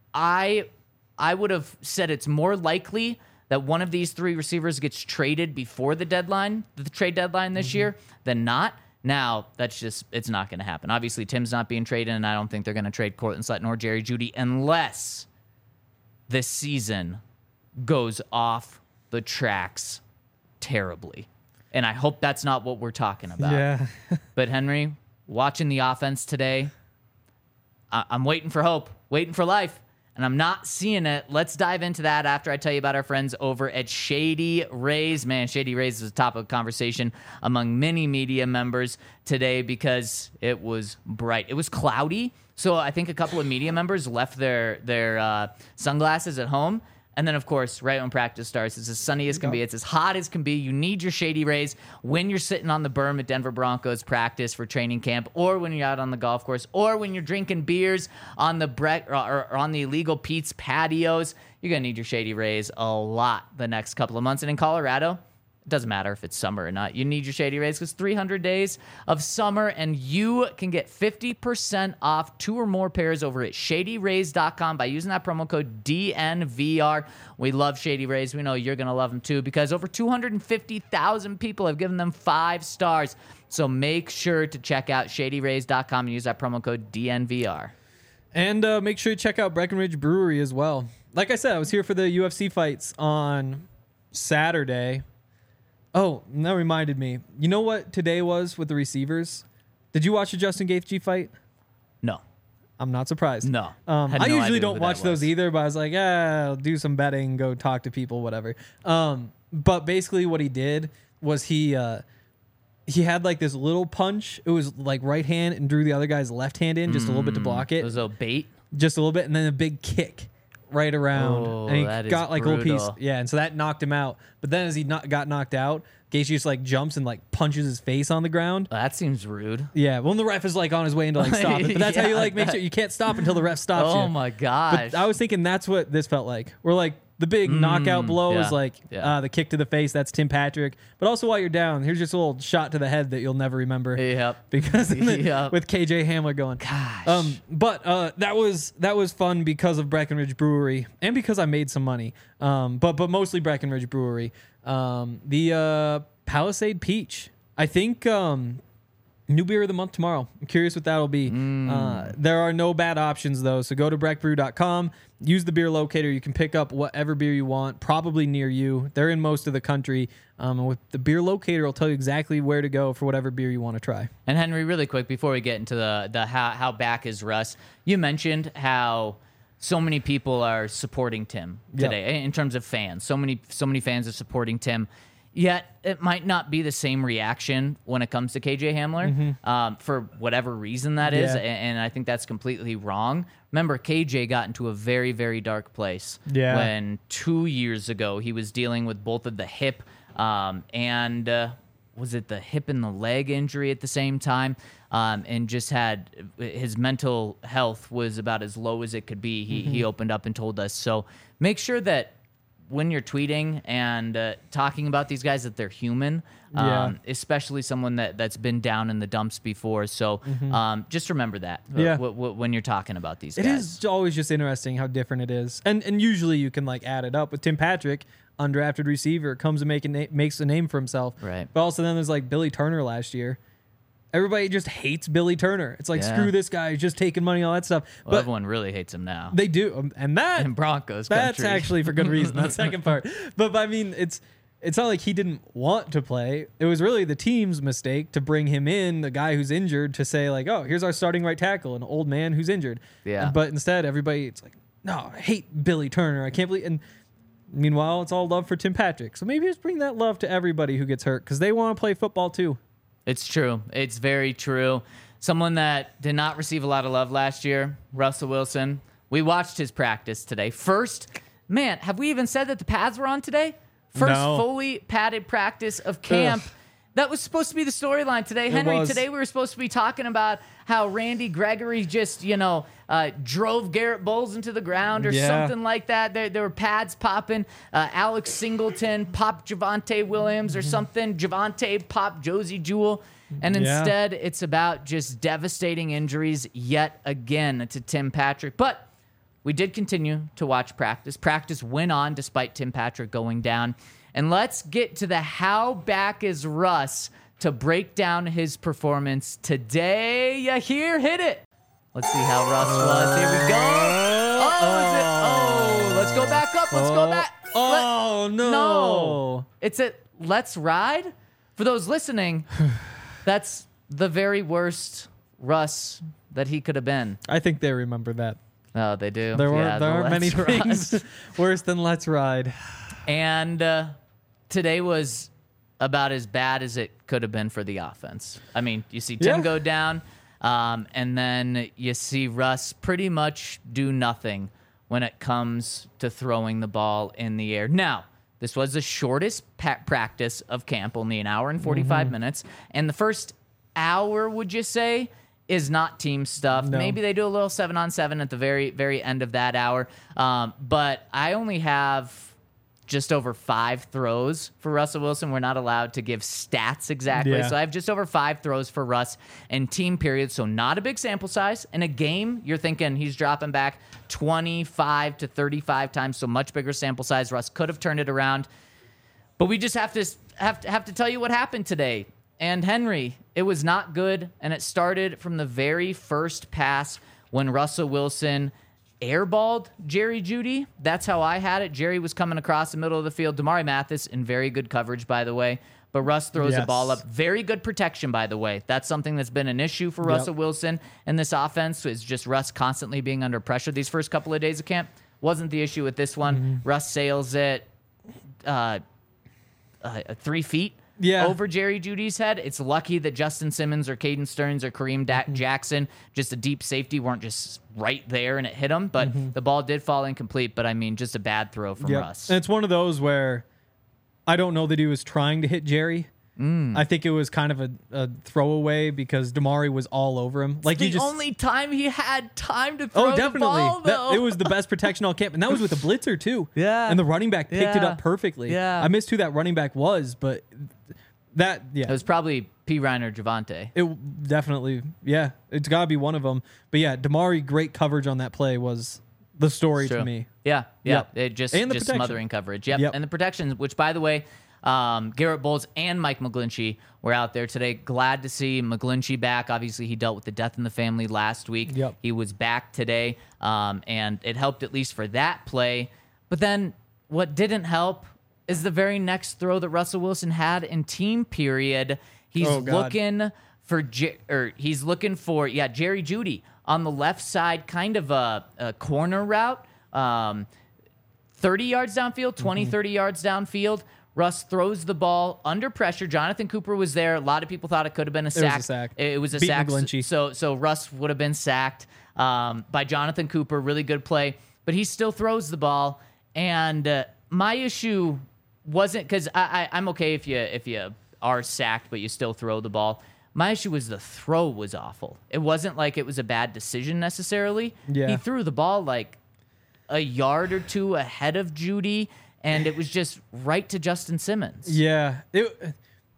I I would have said it's more likely that one of these three receivers gets traded before the deadline, the trade deadline this year, than not. Now, that's just, it's not going to happen. Obviously, Tim's not being traded, and I don't think they're going to trade Cortland Sutton or Jerry Jeudy unless this season goes off the tracks terribly. And I hope that's not what we're talking about. Yeah. But Henry, watching the offense today, I- I'm waiting for hope, waiting for life, and I'm not seeing it. Let's dive into that after I tell you about our friends over at Shady Rays. Man, Shady Rays is the top of conversation among many media members today because it was bright. It was cloudy, so I think a couple of media members left their their uh, sunglasses at home. And then, of course, right when practice starts, it's as sunny as can be. It's as hot as can be. You need your Shady Rays when you're sitting on the berm at Denver Broncos practice for training camp, or when you're out on the golf course, or when you're drinking beers on the bre- or, or on the illegal Pete's patios. You're going to need your Shady Rays a lot the next couple of months. And in Colorado, it doesn't matter if it's summer or not. You need your Shady Rays because three hundred days of summer, and you can get fifty percent off two or more pairs over at shady rays dot com by using that promo code D N V R. We love Shady Rays. We know you're going to love them too because over two hundred fifty thousand people have given them five stars. So make sure to check out shady rays dot com and use that promo code D N V R. And uh, make sure you check out Breckenridge Brewery as well. Like I said, I was here for the U F C fights on Saturday. Oh, and that reminded me. You know what today was with the receivers? Did you watch the Justin Gaethje fight? No. I'm not surprised. No. Um, Had I no usually idea don't who that watch those was. either, but I was like, yeah, I'll do some betting, go talk to people, whatever. Um, but basically what he did was he uh, he had like this little punch. It was like right hand and drew the other guy's left hand in just a little bit to block It it. was a bait. Just a little bit, and then a big kick right around. Oh, and he that is got like a little piece. brutal. Yeah, and so that knocked him out. But then as he not, got knocked out, Gaethje just like jumps and like punches his face on the ground. That seems rude. Yeah, well, the ref is like on his way into like stop it. But that's how you Yeah, like make that- sure you can't stop until the ref stops you. Oh my gosh. But I was thinking that's what this felt like. We're like The big knockout blow yeah, is like yeah. uh, the kick to the face. That's Tim Patrick. But also while you're down, here's just a little shot to the head that you'll never remember. Yep. Because in the, Yep. with K J Hamler going. Gosh. Um, but uh, that was that was fun because of Breckenridge Brewery and because I made some money. Um, but but mostly Breckenridge Brewery. Um, the uh, Palisade Peach. I think. Um, New beer of the month tomorrow. I'm curious what that'll be. Mm. Uh, there are no bad options, though. So go to breck brew dot com. Use the beer locator. You can pick up whatever beer you want, probably near you. They're in most of the country. Um, and with the beer locator, it'll tell you exactly where to go for whatever beer you want to try. And Henry, really quick, before we get into the, the how, how back is Russ, you mentioned how so many people are supporting Tim today Yep. in terms of fans. So many, so many fans are supporting Tim. Yet it might not be the same reaction when it comes to K J Hamler Mm-hmm. um, for whatever reason that is, Yeah. and, and I think that's completely wrong. Remember, K J got into a very, very dark place Yeah. when two years ago he was dealing with both of the hip um, and uh, was it the hip and the leg injury at the same time, um, and just had his mental health was about as low as it could be. He he opened up and told us. So make sure that when you're tweeting and uh, talking about these guys that they're human, um, Yeah. especially someone that, that's been down in the dumps before. So um, just remember that uh, Yeah. w- w- when you're talking about these It guys. is always just interesting how different it is. And and usually you can like add it up with Tim Patrick, undrafted receiver, comes and make a na- makes a name for himself. Right. But also then there's like Billy Turner last year. Everybody just hates Billy Turner. It's like, Yeah. screw this guy, he's just taking money, all that stuff. Well, but everyone really hates him now. they do. um, And that in Broncos That's country. actually for good reason. That second part, but, but I mean, it's it's not like he didn't want to play. It was really the team's mistake to bring him in, the guy who's injured, to say like, oh, here's our starting right tackle, an old man who's injured. Yeah. But instead, everybody, it's like, no, I hate Billy Turner. I can't believe. And meanwhile, it's all love for Tim Patrick. So maybe just bring that love to everybody who gets hurt because they want to play football too. It's true. It's very true. Someone that did not receive a lot of love last year, Russell Wilson. We watched his practice today. First, man, have we even said that the pads were on today? First No. fully padded practice of camp. Ugh. That was supposed to be the storyline today. Henry, was. today we were supposed to be talking about how Randy Gregory just, you know, uh, drove Garrett Bowles into the ground or Yeah. something like that. There, there were pads popping. Uh, Alex Singleton popped Javonte Williams or something. Javonte popped Josie Jewell. And Yeah. instead, it's about just devastating injuries yet again to Tim Patrick. But we did continue to watch practice. Practice went on despite Tim Patrick going down. And let's get to the how back is Russ to break down his performance today. You hear? Hit it. Let's see how Russ was. Here we go. Oh, is it? Oh, let's go back up. Let's go back. Oh, no. No. It's a Let's Ride. For those listening, that's the very worst Russ that he could have been. I think they remember that. Oh, they do. There, were, Yeah, there the aren't many Let's Ride. things worse than Let's Ride. And uh, today was about as bad as it could have been for the offense. I mean, you see Tim Yeah. go down, um, and then you see Russ pretty much do nothing when it comes to throwing the ball in the air. Now, this was the shortest pa- practice of camp, only an hour and forty-five Mm-hmm. minutes. And the first hour, would you say, is not team stuff. No. Maybe they do a little seven on seven at the very, very end of that hour. Um, but I only have just over five throws for Russell Wilson. We're not allowed to give stats exactly. Yeah. So I have just over five throws for Russ in team period. So not a big sample size. In a game, you're thinking he's dropping back twenty-five to thirty-five times. So much bigger sample size. Russ could have turned it around. But we just have to have to, have to tell you what happened today. And Henry, it was not good. And it started from the very first pass when Russell Wilson airballed Jerry Jeudy. That's how I had it. Jerry was coming across the middle of the field. Damari Mathis in very good coverage, by the way. But Russ throws the Yes. ball up. Very good protection, by the way. That's something that's been an issue for Russell Wilson in this offense, is just Russ constantly being under pressure these first couple of days of camp. Wasn't the issue with this one. Mm-hmm. Russ sails it uh, uh, three feet Yeah. over Jerry Jeudy's head. It's lucky that Justin Simmons or Caden Stearns or Kareem da- Mm-hmm. Jackson, just a deep safety, weren't just right there and it hit him. But the ball did fall incomplete. But I mean, just a bad throw from Mm-hmm. Yep. Russ. And it's one of those where I don't know that he was trying to hit Jerry. Mm. I think it was kind of a, a throwaway because Damari was all over him. Like the he just, only time he had time to throw oh, definitely. the ball, though. That, it was the best protection all camp, and that was with a blitzer too. Yeah, and the running back picked yeah. it up perfectly. Yeah, I missed who that running back was, but that yeah, it was probably P. Ryan or Javante. It definitely, yeah, it's got to be one of them. But yeah, Damari, great coverage on that play was the story to me. Yeah, yeah, Yep. it just And the just protection. smothering coverage. Yep. Yep. And the protections, which by the way, um, Garrett Bowles and Mike McGlinchey were out there today. Glad to see McGlinchey back. Obviously, he dealt with the death in the family last week. Yep. He was back today, um, and it helped at least for that play. But then what didn't help is the very next throw that Russell Wilson had in team period. He's Oh, God. looking for Jer- or he's looking for yeah Jerry Jeudy on the left side, kind of a, a corner route, um, thirty yards downfield, twenty, Mm-hmm. thirty yards downfield. Russ throws the ball under pressure. Jonathan Cooper was there. A lot of people thought it could have been a was a sack. sack. It was a Beat sack. McGlinchey. So so Russ would have been sacked um, by Jonathan Cooper. Really good play, but he still throws the ball. And uh, my issue wasn't because I, I I'm okay if you if you are sacked, but you still throw the ball. My issue was the throw was awful. It wasn't like it was a bad decision necessarily. Yeah. He threw the ball like a yard or two ahead of Jeudy, and it was just right to Justin Simmons. Yeah. It,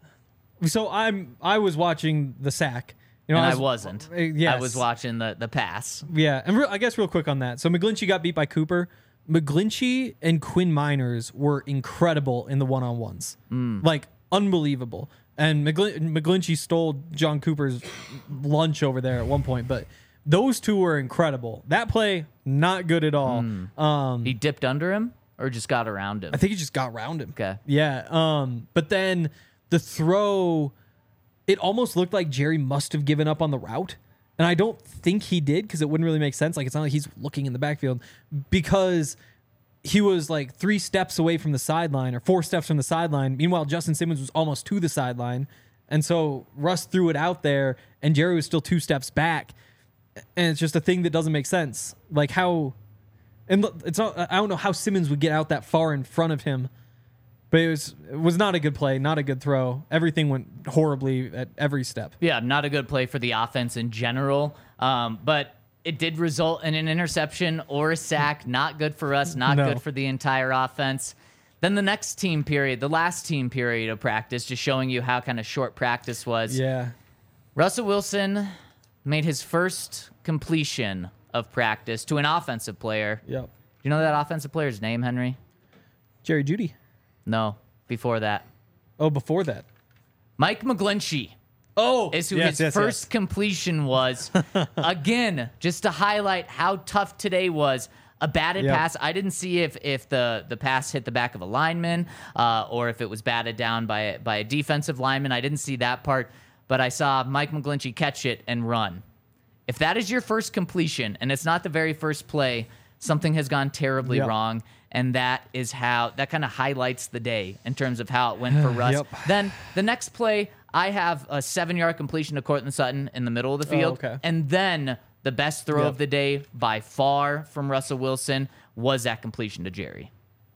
so I'm I was watching the sack. You know, And I, was, wasn't. uh, yes. I was watching the, the pass. Yeah, and re- I guess real quick on that. So McGlinchey got beat by Cooper. McGlinchey and Quinn Miners were incredible in the one-on-ones. Mm. Like, unbelievable. And McGlin- McGlinchey stole John Cooper's lunch over there at one point, but those two were incredible. That play, not good at all. Mm. Um, He dipped under him or just got around him? I think he just got around him. Okay. Yeah. Um, but then the throw, it almost looked like Jerry must have given up on the route. And I don't think he did because it wouldn't really make sense. Like, it's not like he's looking in the backfield because he was like three steps away from the sideline or four steps from the sideline. Meanwhile, Justin Simmons was almost to the sideline. And so Russ threw it out there and Jerry was still two steps back. And it's just a thing that doesn't make sense. Like how, and look, it's not, I don't know how Simmons would get out that far in front of him. But it was it was not a good play, not a good throw. Everything went horribly at every step. Yeah, not a good play for the offense in general. Um, but it did result in an interception or a sack. Not good for us, not No. good for the entire offense. Then the next team period, the last team period of practice, just showing you how kind of short practice was. Yeah. Russell Wilson made his first completion of practice to an offensive player. Yep. Do you know that offensive player's name, Henry? Jerry Jeudy. No, before that. Oh, before that. Mike McGlinchey Oh, is who yes, his yes, first yes. completion was. Again, just to highlight how tough today was. A batted Yep. pass. I didn't see if if the, the pass hit the back of a lineman uh, or if it was batted down by a, by a defensive lineman. I didn't see that part, but I saw Mike McGlinchey catch it and run. If that is your first completion and it's not the very first play, something has gone terribly Yep. wrong. And that is how, that kind of highlights the day in terms of how it went for Russ. Yep. Then the next play, I have a seven-yard completion to Cortland Sutton in the middle of the field. Oh, okay. And then the best throw Yep. of the day by far from Russell Wilson was that completion to Jerry.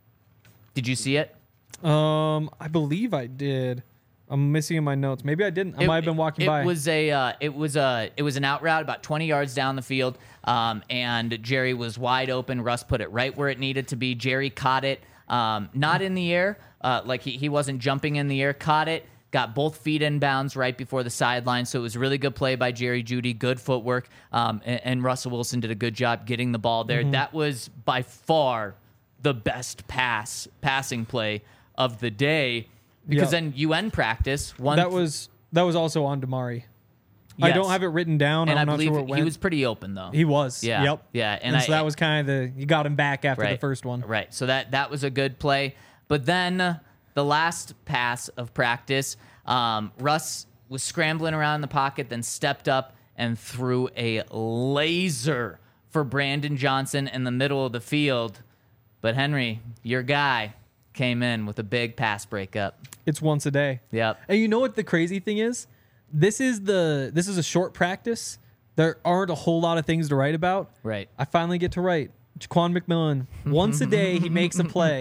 Did you see it? Um, I believe I did. I'm missing in my notes. Maybe I didn't. I It- might have been walking it by. Was a, uh, it was a it was an out route about twenty yards down the field, um, and Jerry was wide open. Russ put it right where it needed to be. Jerry caught it, um, not in the air, uh, like he, he wasn't jumping in the air. Caught it, got both feet in bounds right before the sideline. So it was a really good play by Jerry Jeudy, good footwork, um, and, and Russell Wilson did a good job getting the ball there. Mm-hmm. That was by far the best pass passing play of the day. Because Yep. then you end practice. One that was that was also on Damari. I Yes. don't have it written down. and I'm I not believe sure where it went. he was pretty open though. He was. Yeah. Yep. Yeah. And, And, I, so that was kind of the you got him back after the right, first one. Right. So that that was a good play. But then uh, the last pass of practice, um, Russ was scrambling around the pocket, then stepped up and threw a laser for Brandon Johnson in the middle of the field. But Henry, your guy, came in with a big pass breakup. It's once a day. Yep. And you know what the crazy thing is? This is the this is a short practice. There aren't a whole lot of things to write about. Right. I finally get to write. Jaquan McMillan. Once a day he makes a play.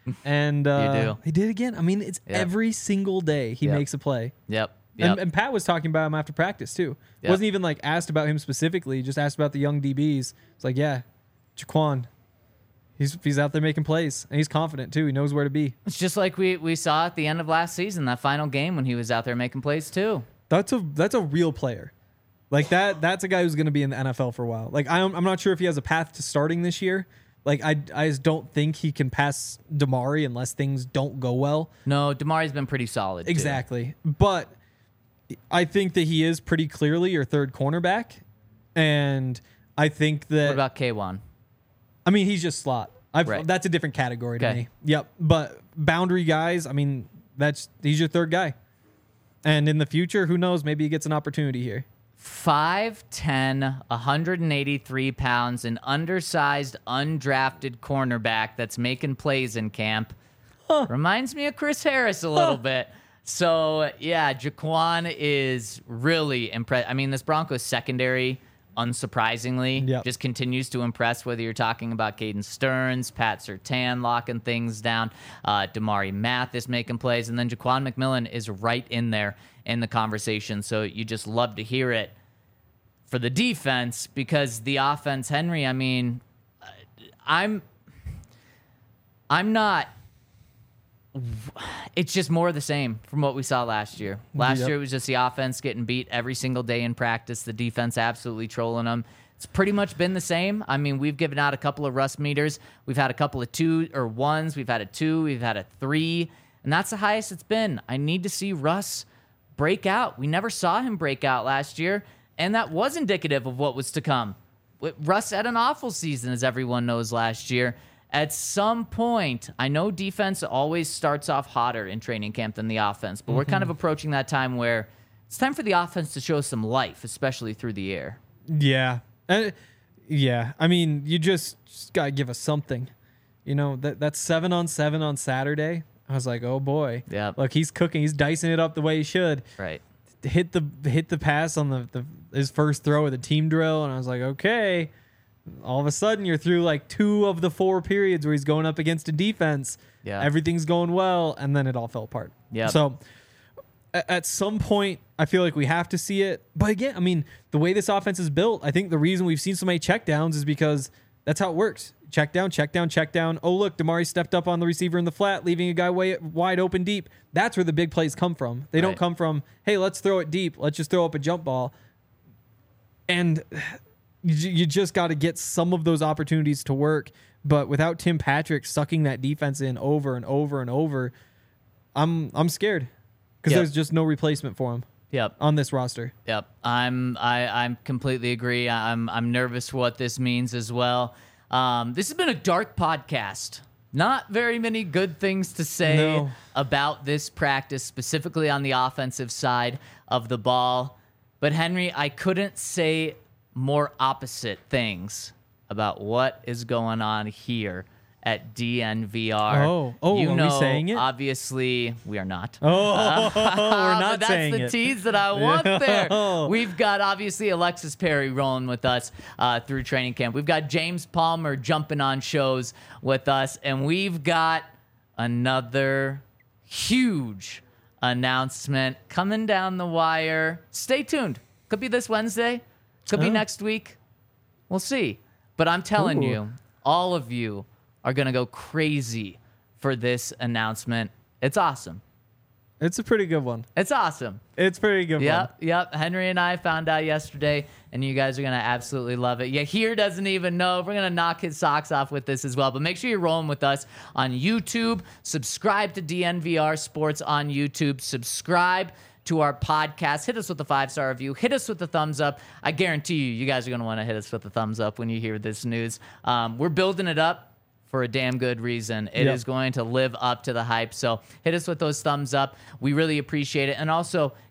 And uh, do. he did again. I mean, it's Yep. every single day he Yep. makes a play. Yep. Yep. And, and Pat was talking about him after practice too. Yep. Wasn't even like asked about him specifically, just asked about the young D Bs. It's like, yeah, Jaquan, he's he's out there making plays, and he's confident too. He knows where to be. It's just like we, we saw at the end of last season, that final game when he was out there making plays too. That's a that's a real player. Like that that's a guy who's going to be in the N F L for a while. Like I'm I'm not sure if he has a path to starting this year. Like I I just don't think he can pass Damari unless things don't go well. No, Damari's been pretty solid. Too. Exactly. But I think that he is pretty clearly your third cornerback. And I think that What about K one? I mean, he's just slot. I've, Right. That's a different category to Okay. me. Yep. But boundary guys, I mean, that's he's your third guy. And in the future, who knows? Maybe he gets an opportunity here. five ten, one hundred eighty-three pounds, an undersized, undrafted cornerback that's making plays in camp. Reminds me of Chris Harris a little bit. So, yeah, Jaquan is really impressed. I mean, this Broncos secondary, unsurprisingly, Yep. just continues to impress, whether you're talking about Caden Stearns, Pat Surtain locking things down, uh, Damari Mathis making plays, and then Jaquan McMillan is right in there in the conversation. So you just love to hear it for the defense, because the offense, Henry, I mean, I'm I'm not it's just more of the same from what we saw last year. Last Yep. year it was just the offense getting beat every single day in practice, the defense absolutely trolling them. It's pretty much been the same. I mean, we've given out a couple of rust meters. We've had a couple of two or ones. We've had a two. We've had a three. And that's the highest it's been. I need to see Russ break out. We never saw him break out last year, and that was indicative of what was to come. Russ had an awful season, as everyone knows, last year. At some point, I know defense always starts off hotter in training camp than the offense, but mm-hmm. we're kind of approaching that time where it's time for the offense to show some life, especially through the air. Yeah. Uh, yeah. I mean, you just, just got to give us something. You know, that that's seven on seven on Saturday. I was like, oh boy. Yeah. Look, he's cooking. He's dicing it up the way he should. Right. Hit the hit the pass on the, the his first throw of the team drill, and I was like, okay. All of a sudden, you're through like two of the four periods where he's going up against a defense. Yeah. Everything's going well, and then it all fell apart. Yeah. So a- at some point, I feel like we have to see it. But again, I mean, the way this offense is built, I think the reason we've seen so many checkdowns is because that's how it works. Check down, check down, check down. Oh, look, Damari stepped up on the receiver in the flat, leaving a guy way wide open deep. That's where the big plays come from. They Right. don't come from, hey, let's throw it deep. Let's just throw up a jump ball. And you, you just got to get some of those opportunities to work. But without Tim Patrick sucking that defense in over and over and over, I'm I'm scared because Yep. there's just no replacement for him Yep. on this roster. Yep. I'm I I'm completely agree. I'm I'm nervous for what this means as well. Um, this has been a dark podcast. Not very many good things to say No. about this practice, specifically on the offensive side of the ball. But Henry, I couldn't say more opposite things about what is going on here at D N V R. Oh. Oh, you are we know, saying it? Obviously, we are not. Oh, we're but not that's saying the it. tease that I want there. No. We've got obviously Alexis Perry rolling with us uh, through training camp. We've got James Palmer jumping on shows with us, and we've got another huge announcement coming down the wire. Stay tuned. Could be this Wednesday. Could be Oh. next week. We'll see. But I'm telling Ooh. you, all of you are going to go crazy for this announcement. It's awesome. It's a pretty good one. It's awesome. It's a pretty good one. Yep, yep. Henry and I found out yesterday, and you guys are going to absolutely love it. Yeah, here doesn't even know. We're going to knock his socks off with this as well. But make sure you're rolling with us on YouTube. Subscribe to D N V R Sports on YouTube. Subscribe to our podcast. Hit us with a five-star review. Hit us with a thumbs up. I guarantee you, you guys are going to want to hit us with a thumbs up when you hear this news. Um, we're building it up for a damn good reason. It Yep. is going to live up to the hype. So hit us with those thumbs up. We really appreciate it. And also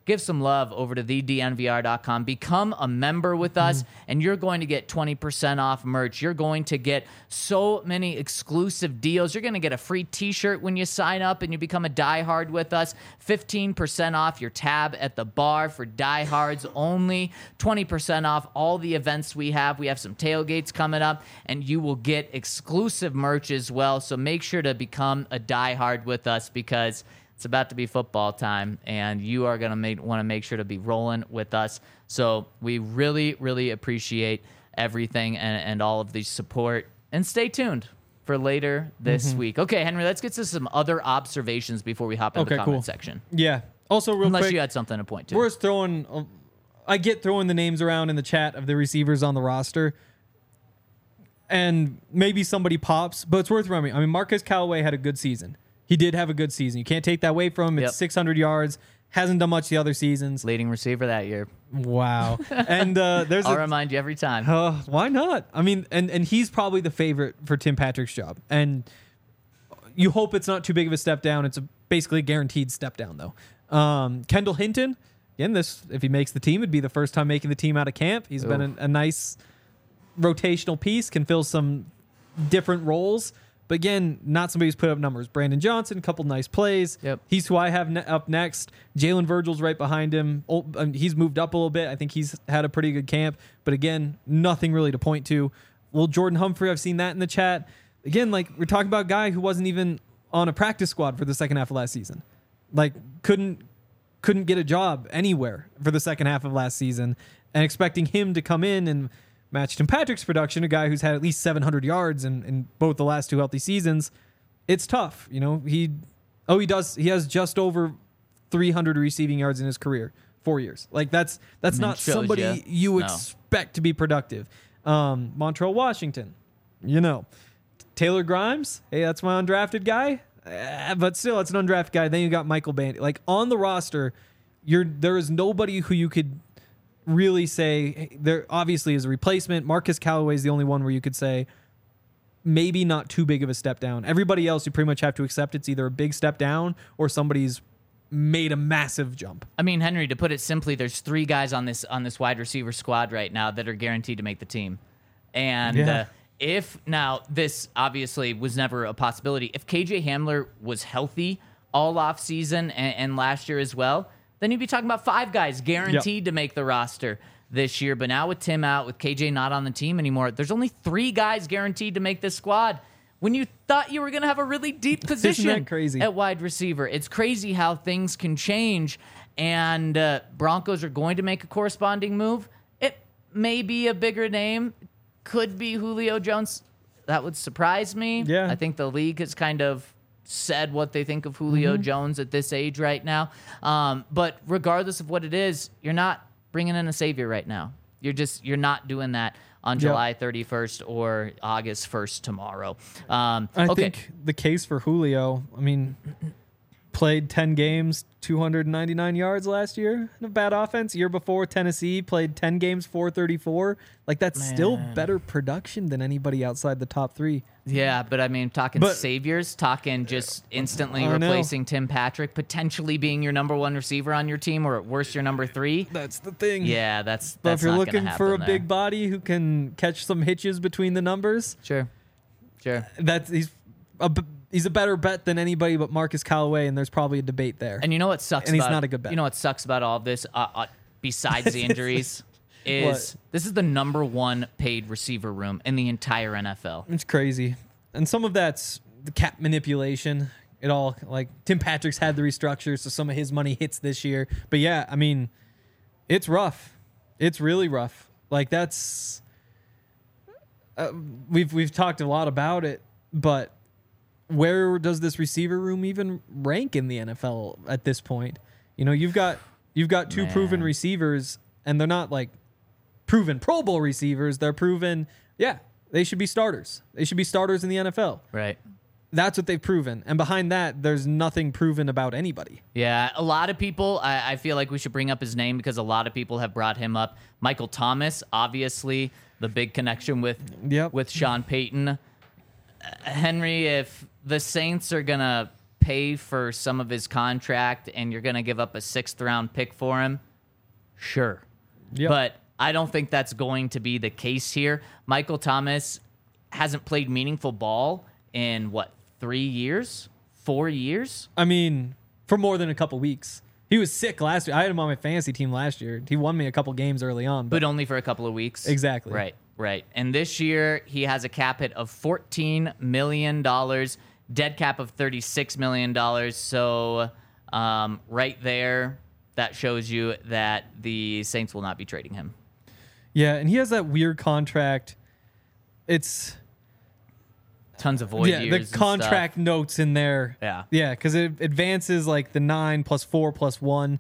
give some love over to the d n v r dot com. Become a member with us, mm-hmm. and you're going to get twenty percent off merch. You're going to get so many exclusive deals. You're going to get a free t-shirt when you sign up and you become a diehard with us. fifteen percent off your tab at the bar for diehards only. twenty percent off all the events we have. We have some tailgates coming up, and you will get exclusive merch as well. So make sure to become a diehard with us, because it's about to be football time, and you are going to want to make sure to be rolling with us. So we really, really appreciate everything and, and all of the support. And stay tuned for later this mm-hmm. week. Okay, Henry, let's get to some other observations before we hop into okay, the comment cool. section. Yeah. Also, real Unless quick, you had something to point to. We're throwing, uh, I get throwing the names around in the chat of the receivers on the roster, and maybe somebody pops, but it's worth remembering. I mean, Marquez Callaway had a good season. He did have a good season. You can't take that away from him. It's yep. six hundred yards. Hasn't done much the other seasons. Leading receiver that year. Wow. And uh, there's I'll a, remind you every time. Uh, why not? I mean, and, and he's probably the favorite for Tim Patrick's job. And you hope it's not too big of a step down. It's a basically a guaranteed step down, though. Um, Kendall Hinton, again, this if he makes the team, it'd be the first time making the team out of camp. He's Ooh. been a, a nice rotational piece, can fill some different roles. But again, not somebody who's put up numbers. Brandon Johnson, a couple nice plays. Yep. He's who I have ne- up next. Jalen Virgil's right behind him. Oh, um, he's moved up a little bit. I think he's had a pretty good camp. But again, nothing really to point to. Well, Jordan Humphrey, I've seen that in the chat. Again, like we're talking about a guy who wasn't even on a practice squad for the second half of last season. Like couldn't couldn't get a job anywhere for the second half of last season. And expecting him to come in and match Tim Patrick's production, a guy who's had at least seven hundred yards in, in both the last two healthy seasons, it's tough. You know, he, oh, he does, he has just over three hundred receiving yards in his career, four years. Like that's, that's I mean, not somebody you, you no. expect to be productive. Um, Montrell Washington, you know, Taylor Grimes. Hey, that's my undrafted guy, uh, but still it's an undrafted guy. Then you got Michael Bandy, like on the roster. You're, there is nobody who you could really say hey, there obviously is a replacement. Marcus Callaway is the only one where you could say maybe not too big of a step down. Everybody else you pretty much have to accept it's either a big step down or somebody's made a massive jump. I mean, Henry, to put it simply, there's three guys on this on this wide receiver squad right now that are guaranteed to make the team. And yeah. uh, if now this obviously was never a possibility. If K J Hamler was healthy all off season and, and last year as well, then you'd be talking about five guys guaranteed yep. to make the roster this year. But now with Tim out, with K J not on the team anymore, there's only three guys guaranteed to make this squad. When you thought you were going to have a really deep position crazy? at wide receiver. It's crazy how things can change, and uh, Broncos are going to make a corresponding move. It may be a bigger name. Could be Julio Jones. That would surprise me. Yeah. I think the league has kind of said what they think of Julio mm-hmm. Jones at this age right now. Um, but regardless of what it is, you're not bringing in a savior right now. You're just, you're not doing that on July thirty-first or August first tomorrow. Um, I okay. think the case for Julio, I mean, played ten games, two hundred ninety-nine yards last year. A bad offense. Year before, Tennessee played ten games, four thirty-four. Like, that's Man. still better production than anybody outside the top three. Yeah, but I mean, talking but, saviors, talking just instantly replacing Tim Patrick, potentially being your number one receiver on your team, or at worst, your number three. That's the thing. Yeah, that's that's But if you're not looking for a there. big body who can catch some hitches between the numbers, sure, sure, that's he's a he's a better bet than anybody but Marcus Callaway, and there's probably a debate there. And you know what sucks? And about, he's not a good bet. You know what sucks about all of this? Uh, uh, besides the injuries. Is what? This is the number one paid receiver room in the entire N F L. It's crazy. And some of that's the cap manipulation. It all, like, Tim Patrick's had the restructure, so some of his money hits this year. But yeah, I mean, it's rough. It's really rough. Like, that's uh, we've we've talked a lot about it, but where does this receiver room even rank in the N F L at this point? You know, you've got you've got two Man. proven receivers, and they're not like proven Pro Bowl receivers. They're proven, yeah, they should be starters. They should be starters in the N F L. Right. That's what they've proven. And behind that, there's nothing proven about anybody. Yeah, a lot of people, I, I feel like we should bring up his name because a lot of people have brought him up. Michael Thomas, obviously, the big connection with, yep. with Sean Payton. Uh, Henry, if the Saints are going to pay for some of his contract and you're going to give up a sixth round pick for him, sure. Yep. But I don't think that's going to be the case here. Michael Thomas hasn't played meaningful ball in, what, three years? Four years? I mean, for more than a couple weeks. He was sick last year. I had him on my fantasy team last year. He won me a couple games early on. But only for a couple of weeks. Exactly. Right, right. And this year, he has a cap hit of fourteen million dollars, dead cap of thirty-six million dollars. So um, right there, that shows you that the Saints will not be trading him. Yeah, and he has that weird contract. It's... Tons of void yeah, years. the contract and notes in there. Yeah. Yeah, because it advances like the nine plus four plus one.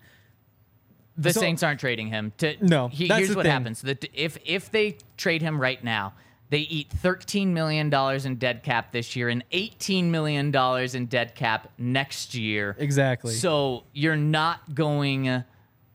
The So- Saints aren't trading him. To, No, he- that's here's the what thing. happens. That if if they trade him right now, they eat thirteen million dollars in dead cap this year and eighteen million dollars in dead cap next year. Exactly. So you're not going. Uh,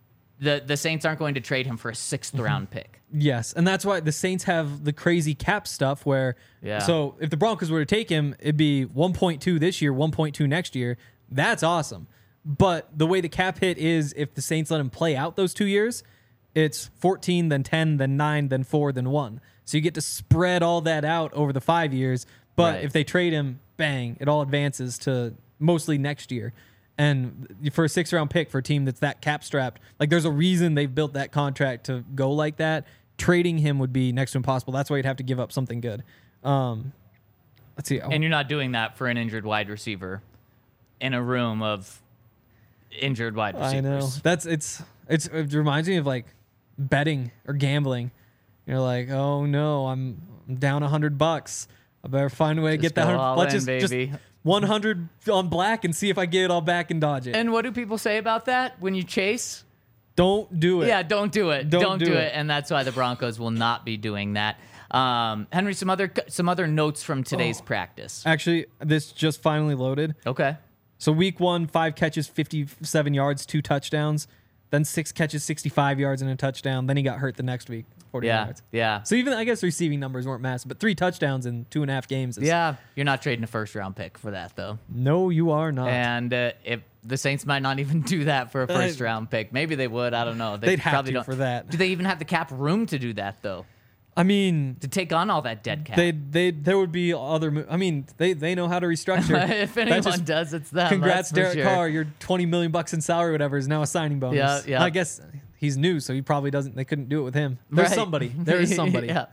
the the Saints aren't going to trade him for a sixth Mm-hmm. round pick. Yes, and that's why the Saints have the crazy cap stuff where Yeah. so if the Broncos were to take him, it'd be one point two this year, one point two next year. That's awesome. But the way the cap hit is if the Saints let him play out those two years, it's fourteen, then ten, then nine, then four, then one. So you get to spread all that out over the five years. But Right. if they trade him, bang, it all advances to mostly next year. And for a six round pick for a team that's that cap strapped, like there's a reason they've built that contract to go like that. Trading him would be next to impossible. That's why you'd have to give up something good. Um, let's see. And you're not doing that for an injured wide receiver in a room of injured wide receivers. I know that's it's it's it reminds me of like betting or gambling. You're like, oh no, I'm, I'm down a hundred bucks. I better find a way to Just get that. go one hundred all Let's in, just baby. just one hundred on black and see if I get it all back and dodge it. And what do people say about that when you chase? Don't do it. Yeah, don't do it. Don't Don't, do do, it. it. And that's why the Broncos will not be doing that. Um, Henry, some other some other notes from today's Oh. practice. Actually, this just finally loaded. Okay. So week one, five catches, fifty-seven yards, two touchdowns. Then six catches, sixty-five yards, and a touchdown. Then he got hurt the next week, forty Yeah. yards. Yeah. So even I guess receiving numbers weren't massive, but three touchdowns in two and a half games. Is, Yeah. You're not trading a first round pick for that though. No, you are not. And uh, if the Saints might not even do that for a first round pick. Maybe they would. I don't know. They They'd have probably to don't. for that. Do they even have the cap room to do that though? I mean, To take on all that dead cap. they they there would be other. mo- I mean, they they know how to restructure. if That anyone just- does, it's them. Congrats, that's for Derek sure. Carr. Your twenty million bucks in salary, whatever, is now a signing bonus. Yeah, yeah. I guess he's new, so he probably doesn't. They couldn't do it with him. There's Right. somebody. There is somebody. yeah.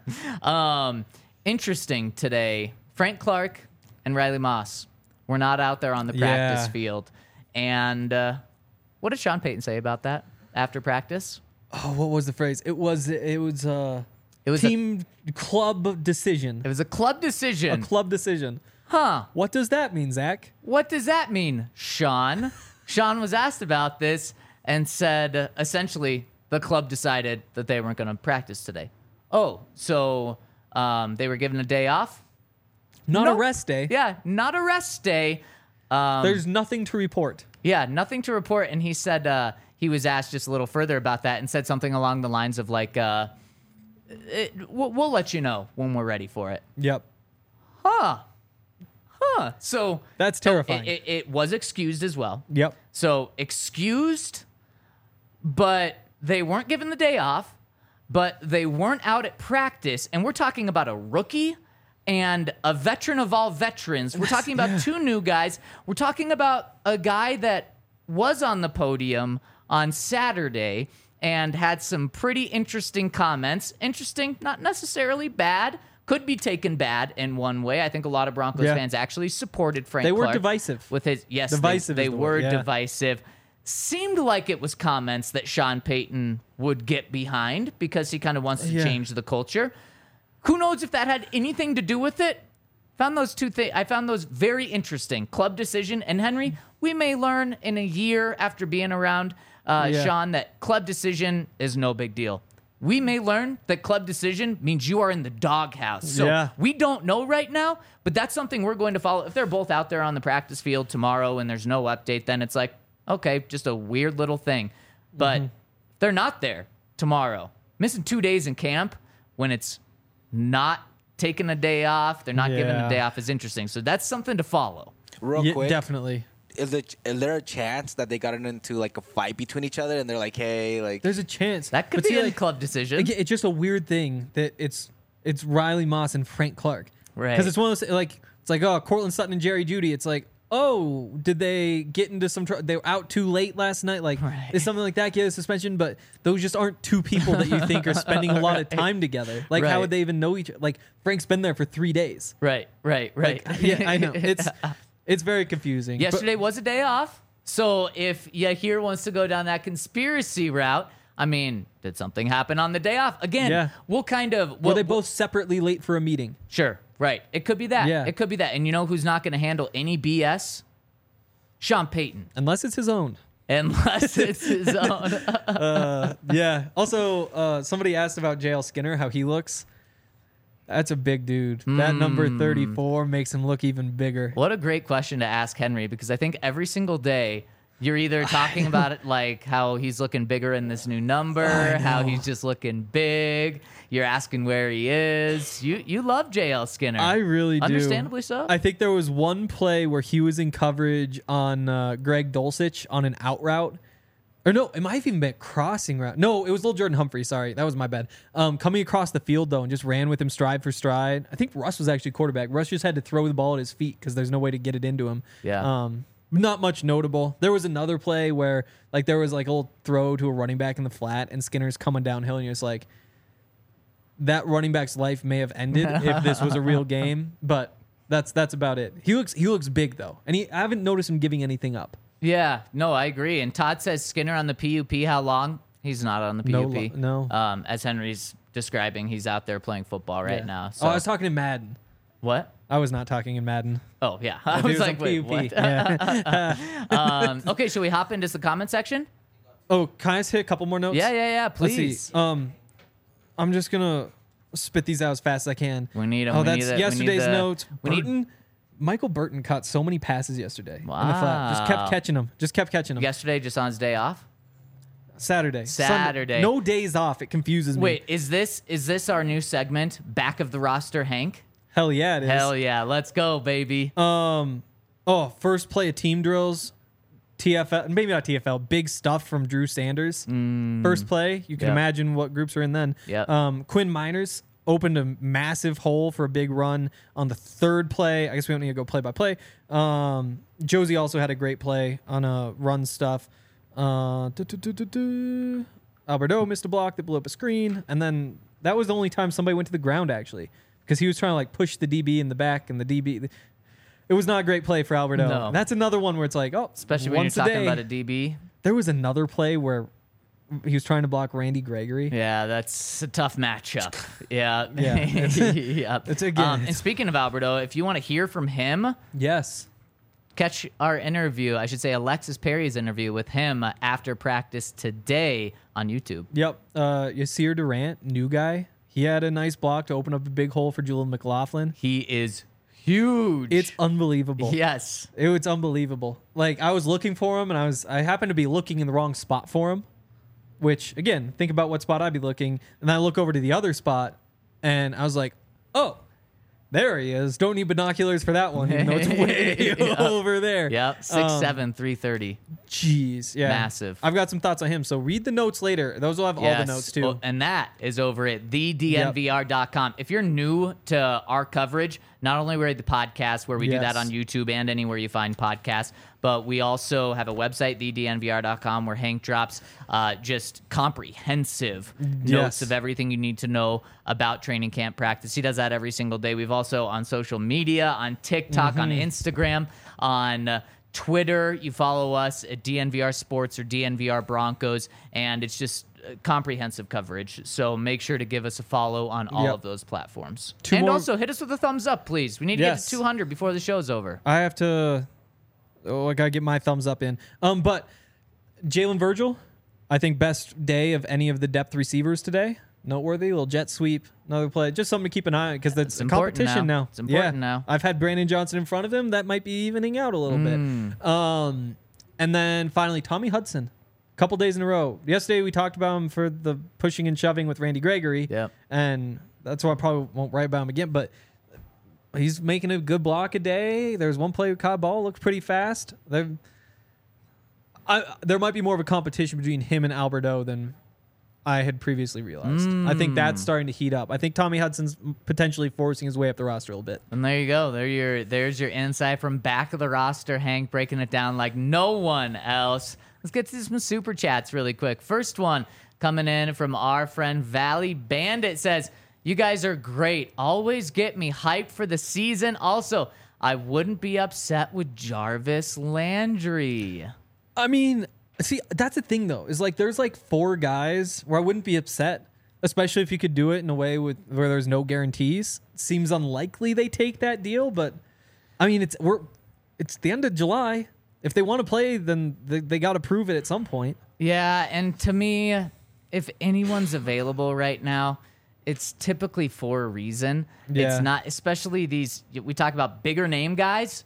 Um, interesting today. Frank Clark and Riley Moss were not out there on the practice Yeah. field. And uh, what did Sean Payton say about that after practice? Oh, what was the phrase? It was it was uh It was a- team club decision. It was a club A decision. club decision. huh. What does that mean, Zach? What does that mean, Sean? Sean was asked about this and said uh, essentially the club decided that they weren't going to practice today. Oh, so um, they were given a day off? Not Nope. a rest day. Yeah, not a rest day. Um, There's nothing to report. yeah, nothing to report. And he said uh, he was asked just a little further about that and said something along the lines of like, uh, it, we'll, we'll let you know when we're ready for it. Yep. Huh. Huh. So That's it, terrifying. it, it was excused as well. Yep. So excused, but they weren't given the day off, but they weren't out at practice. And we're talking about a rookie and a veteran of all veterans. We're talking about two new guys. We're talking about a guy that was on the podium on Saturday and had some pretty interesting comments. Interesting, not necessarily bad. Could be taken bad in one way. I think a lot of Broncos Yeah. fans actually supported Frank They were Clark divisive. with his yes, they- Divisive they, is the were word, yeah. divisive. Seemed like it was comments that Sean Payton would get behind because he kind of wants to Yeah. change the culture. Who knows if that had anything to do with it? Found those two things. I found those very interesting. Club decision and Henry. We may learn in a year after being around uh, Yeah. Sean that club decision is no big deal. We may learn that club decision means you are in the doghouse. So Yeah. we don't know right now, but that's something we're going to follow. If they're both out there on the practice field tomorrow and there's no update, then it's like, okay, just a weird little thing. But Mm-hmm. if they're not there tomorrow, missing two days in camp when it's not taking a day off, they're not giving Yeah. a day off is interesting. So that's something to follow. Real Yeah, quick, definitely. is it is there a chance that they got into like a fight between each other and they're like, hey, like There's a chance That could But be see, a like, club decision. again, it's just a weird thing that it's it's Riley Moss and Frank Clark, Right. Because it's one of those like it's like oh Cortland Sutton and Jerry Jeudy. It's like oh did they get into some trouble? They were out too late last night. Like Right. is something like that get a suspension? But those just aren't two people that you think are spending a lot of time together. Like Right. how would they even know each other? Like Frank's been there for three days. Right, right, right. Like, yeah, I know it's it's very confusing. But- Yesterday was a day off. So if Yahir wants to go down that conspiracy route, I mean, did something happen on the day off? Again, Yeah. we'll kind of. were we'll- they both separately late for a meeting? Sure, right. It could be that. Yeah. It could be that. And you know who's not going to handle any B S? Sean Payton. Unless it's his own. Unless it's his own. Yeah. Also, uh, somebody asked about J L Skinner, how he looks. That's a big dude. That number thirty-four makes him look even bigger. What a great question to ask Henry, because I think every single day you're either talking about it like how he's looking bigger in this new number, how he's just looking big. You're asking where he is. You you love J L Skinner. I really do. Understandably so. I think there was one play where he was in coverage on uh, Greg Dulcich on an out route. Or no, it might have even been a crossing route. No, it was little Jordan Humphrey. Sorry, that was my bad. Um, coming across the field, though, and just ran with him stride for stride. I think Russ was actually quarterback. Russ just had to throw the ball at his feet because there's no way to get it into him. Yeah. Um, not much notable. There was another play where like there was like a little throw to a running back in the flat, and Skinner's coming downhill, and you're just like, that running back's life may have ended if this was a real game. But that's that's about it. He looks he looks big though, and he I haven't noticed him giving anything up. Yeah, no, I agree. And Todd says Skinner on the P U P. How long? He's not on the P U P. No, no. Um, as Henry's describing, he's out there playing football right Yeah. now. So Oh, I was talking in Madden. what? I was not talking in Madden. Oh yeah, I If he was like, on wait, P U P. what? Yeah. um, okay, should we hop into the comment section? Oh, can I just hit a couple more notes? Yeah, yeah, yeah. Let's Please. see. Um, I'm just gonna spit these out as fast as I can. We need 'em. Oh, We that's need the- we need yesterday's the- notes. we need- Burton, Michael Burton caught so many passes yesterday in the flat. Just Wow. kept catching them. Just kept catching them. Yesterday, just on his day off. Saturday. Sunday. Saturday. No days off. It confuses me. Wait, is this is this our new segment? Back of the roster, Hank. Hell yeah, it is. Hell yeah, let's go, baby. Um, oh, first play of team drills, T F L, maybe not T F L, big stuff from Drew Sanders. First play, you can Yep. imagine what groups are in then. Yep. Um, Quinn Miners opened a massive hole for a big run on the third play. I guess we don't need to go play by play. Um, Josie also had a great play on a run stuff. Uh, du- du- du- du- du. Alberto missed a block that blew up a screen, and then that was the only time somebody went to the ground actually, because he was trying to like push the D B in the back, and the D B. It was not a great play for Alberto. No. That's another one where it's like, oh, Especially when once you're a talking day. about a D B. There was another play where he was trying to block Randy Gregory. Yeah, that's a tough matchup. Yeah. Yeah, it's- yeah. it's again, Um, and it's- speaking of Alberto, if you want to hear from him, Yes. catch our interview, I should say Alexis Perry's interview with him uh, after practice today on YouTube. Yep. Uh, Yasir Durant, new guy. He had a nice block to open up a big hole for Julian McLaughlin. He is huge. It's unbelievable. yes. It was unbelievable. Like I was looking for him, and I was I happened to be looking in the wrong spot for him. Which again, think about what spot I'd be looking, and then I look over to the other spot, and I was like, oh, there he is. Don't need binoculars for that one, even though it's way Yep. over there. Yep. Six Um, seven, three thirty. Jeez, yeah, Massive. I've got some thoughts on him, so read the notes later. Those will have all the notes too. Oh, and that is over at the D N V R dot com. If you're new to our coverage, not only we're the podcast where we do that Yes. on YouTube and anywhere you find podcasts, but we also have a website, the D N V R dot com, where Hank drops uh, just comprehensive notes Yes. of everything you need to know about training camp practice. He does that every single day. We've also on social media, on TikTok, on Mm-hmm. Instagram, on uh, Twitter. You follow us at D N V R Sports or D N V R Broncos, and it's just uh, comprehensive coverage. So make sure to give us a follow on all Yep. of those platforms. Two and more- also hit us with a thumbs up, please. We need to Yes. get to two hundred before the show's over. I have to. Oh, I gotta get my thumbs up in. Um, but Jalen Virgil, I think best day of any of the depth receivers today. Noteworthy, little jet sweep, another play, just something to keep an eye on because that's It's a important competition now. now. It's important yeah. now. I've had Brandon Johnson in front of him. That might be evening out a little Mm. bit. Um, and then finally Tommy Hudson, a couple days in a row. Yesterday we talked about him for the pushing and shoving with Randy Gregory. Yep. And that's why I probably won't write about him again. But he's making a good block a day. There's one play with caught ball, looks pretty fast. There, I, there might be more of a competition between him and Alberto than I had previously realized. Mm. I think that's starting to heat up. I think Tommy Hudson's potentially forcing his way up the roster a little bit. And there you go. There your there's your insight from back of the roster. Hank breaking it down like no one else. Let's get to some super chats really quick. First one coming in from our friend Valley Bandit says, "You guys are great. Always get me hyped for the season. Also, I wouldn't be upset with Jarvis Landry." I mean, see, that's the thing though, is like there's like four guys where I wouldn't be upset, especially if you could do it in a way with where there's no guarantees. It seems unlikely they take that deal, but I mean, it's we're it's the end of July. If they want to play, then they, they got to prove it at some point. Yeah, and to me, if anyone's available right now, it's typically for a reason. Yeah. It's not, especially these, we talk about bigger name guys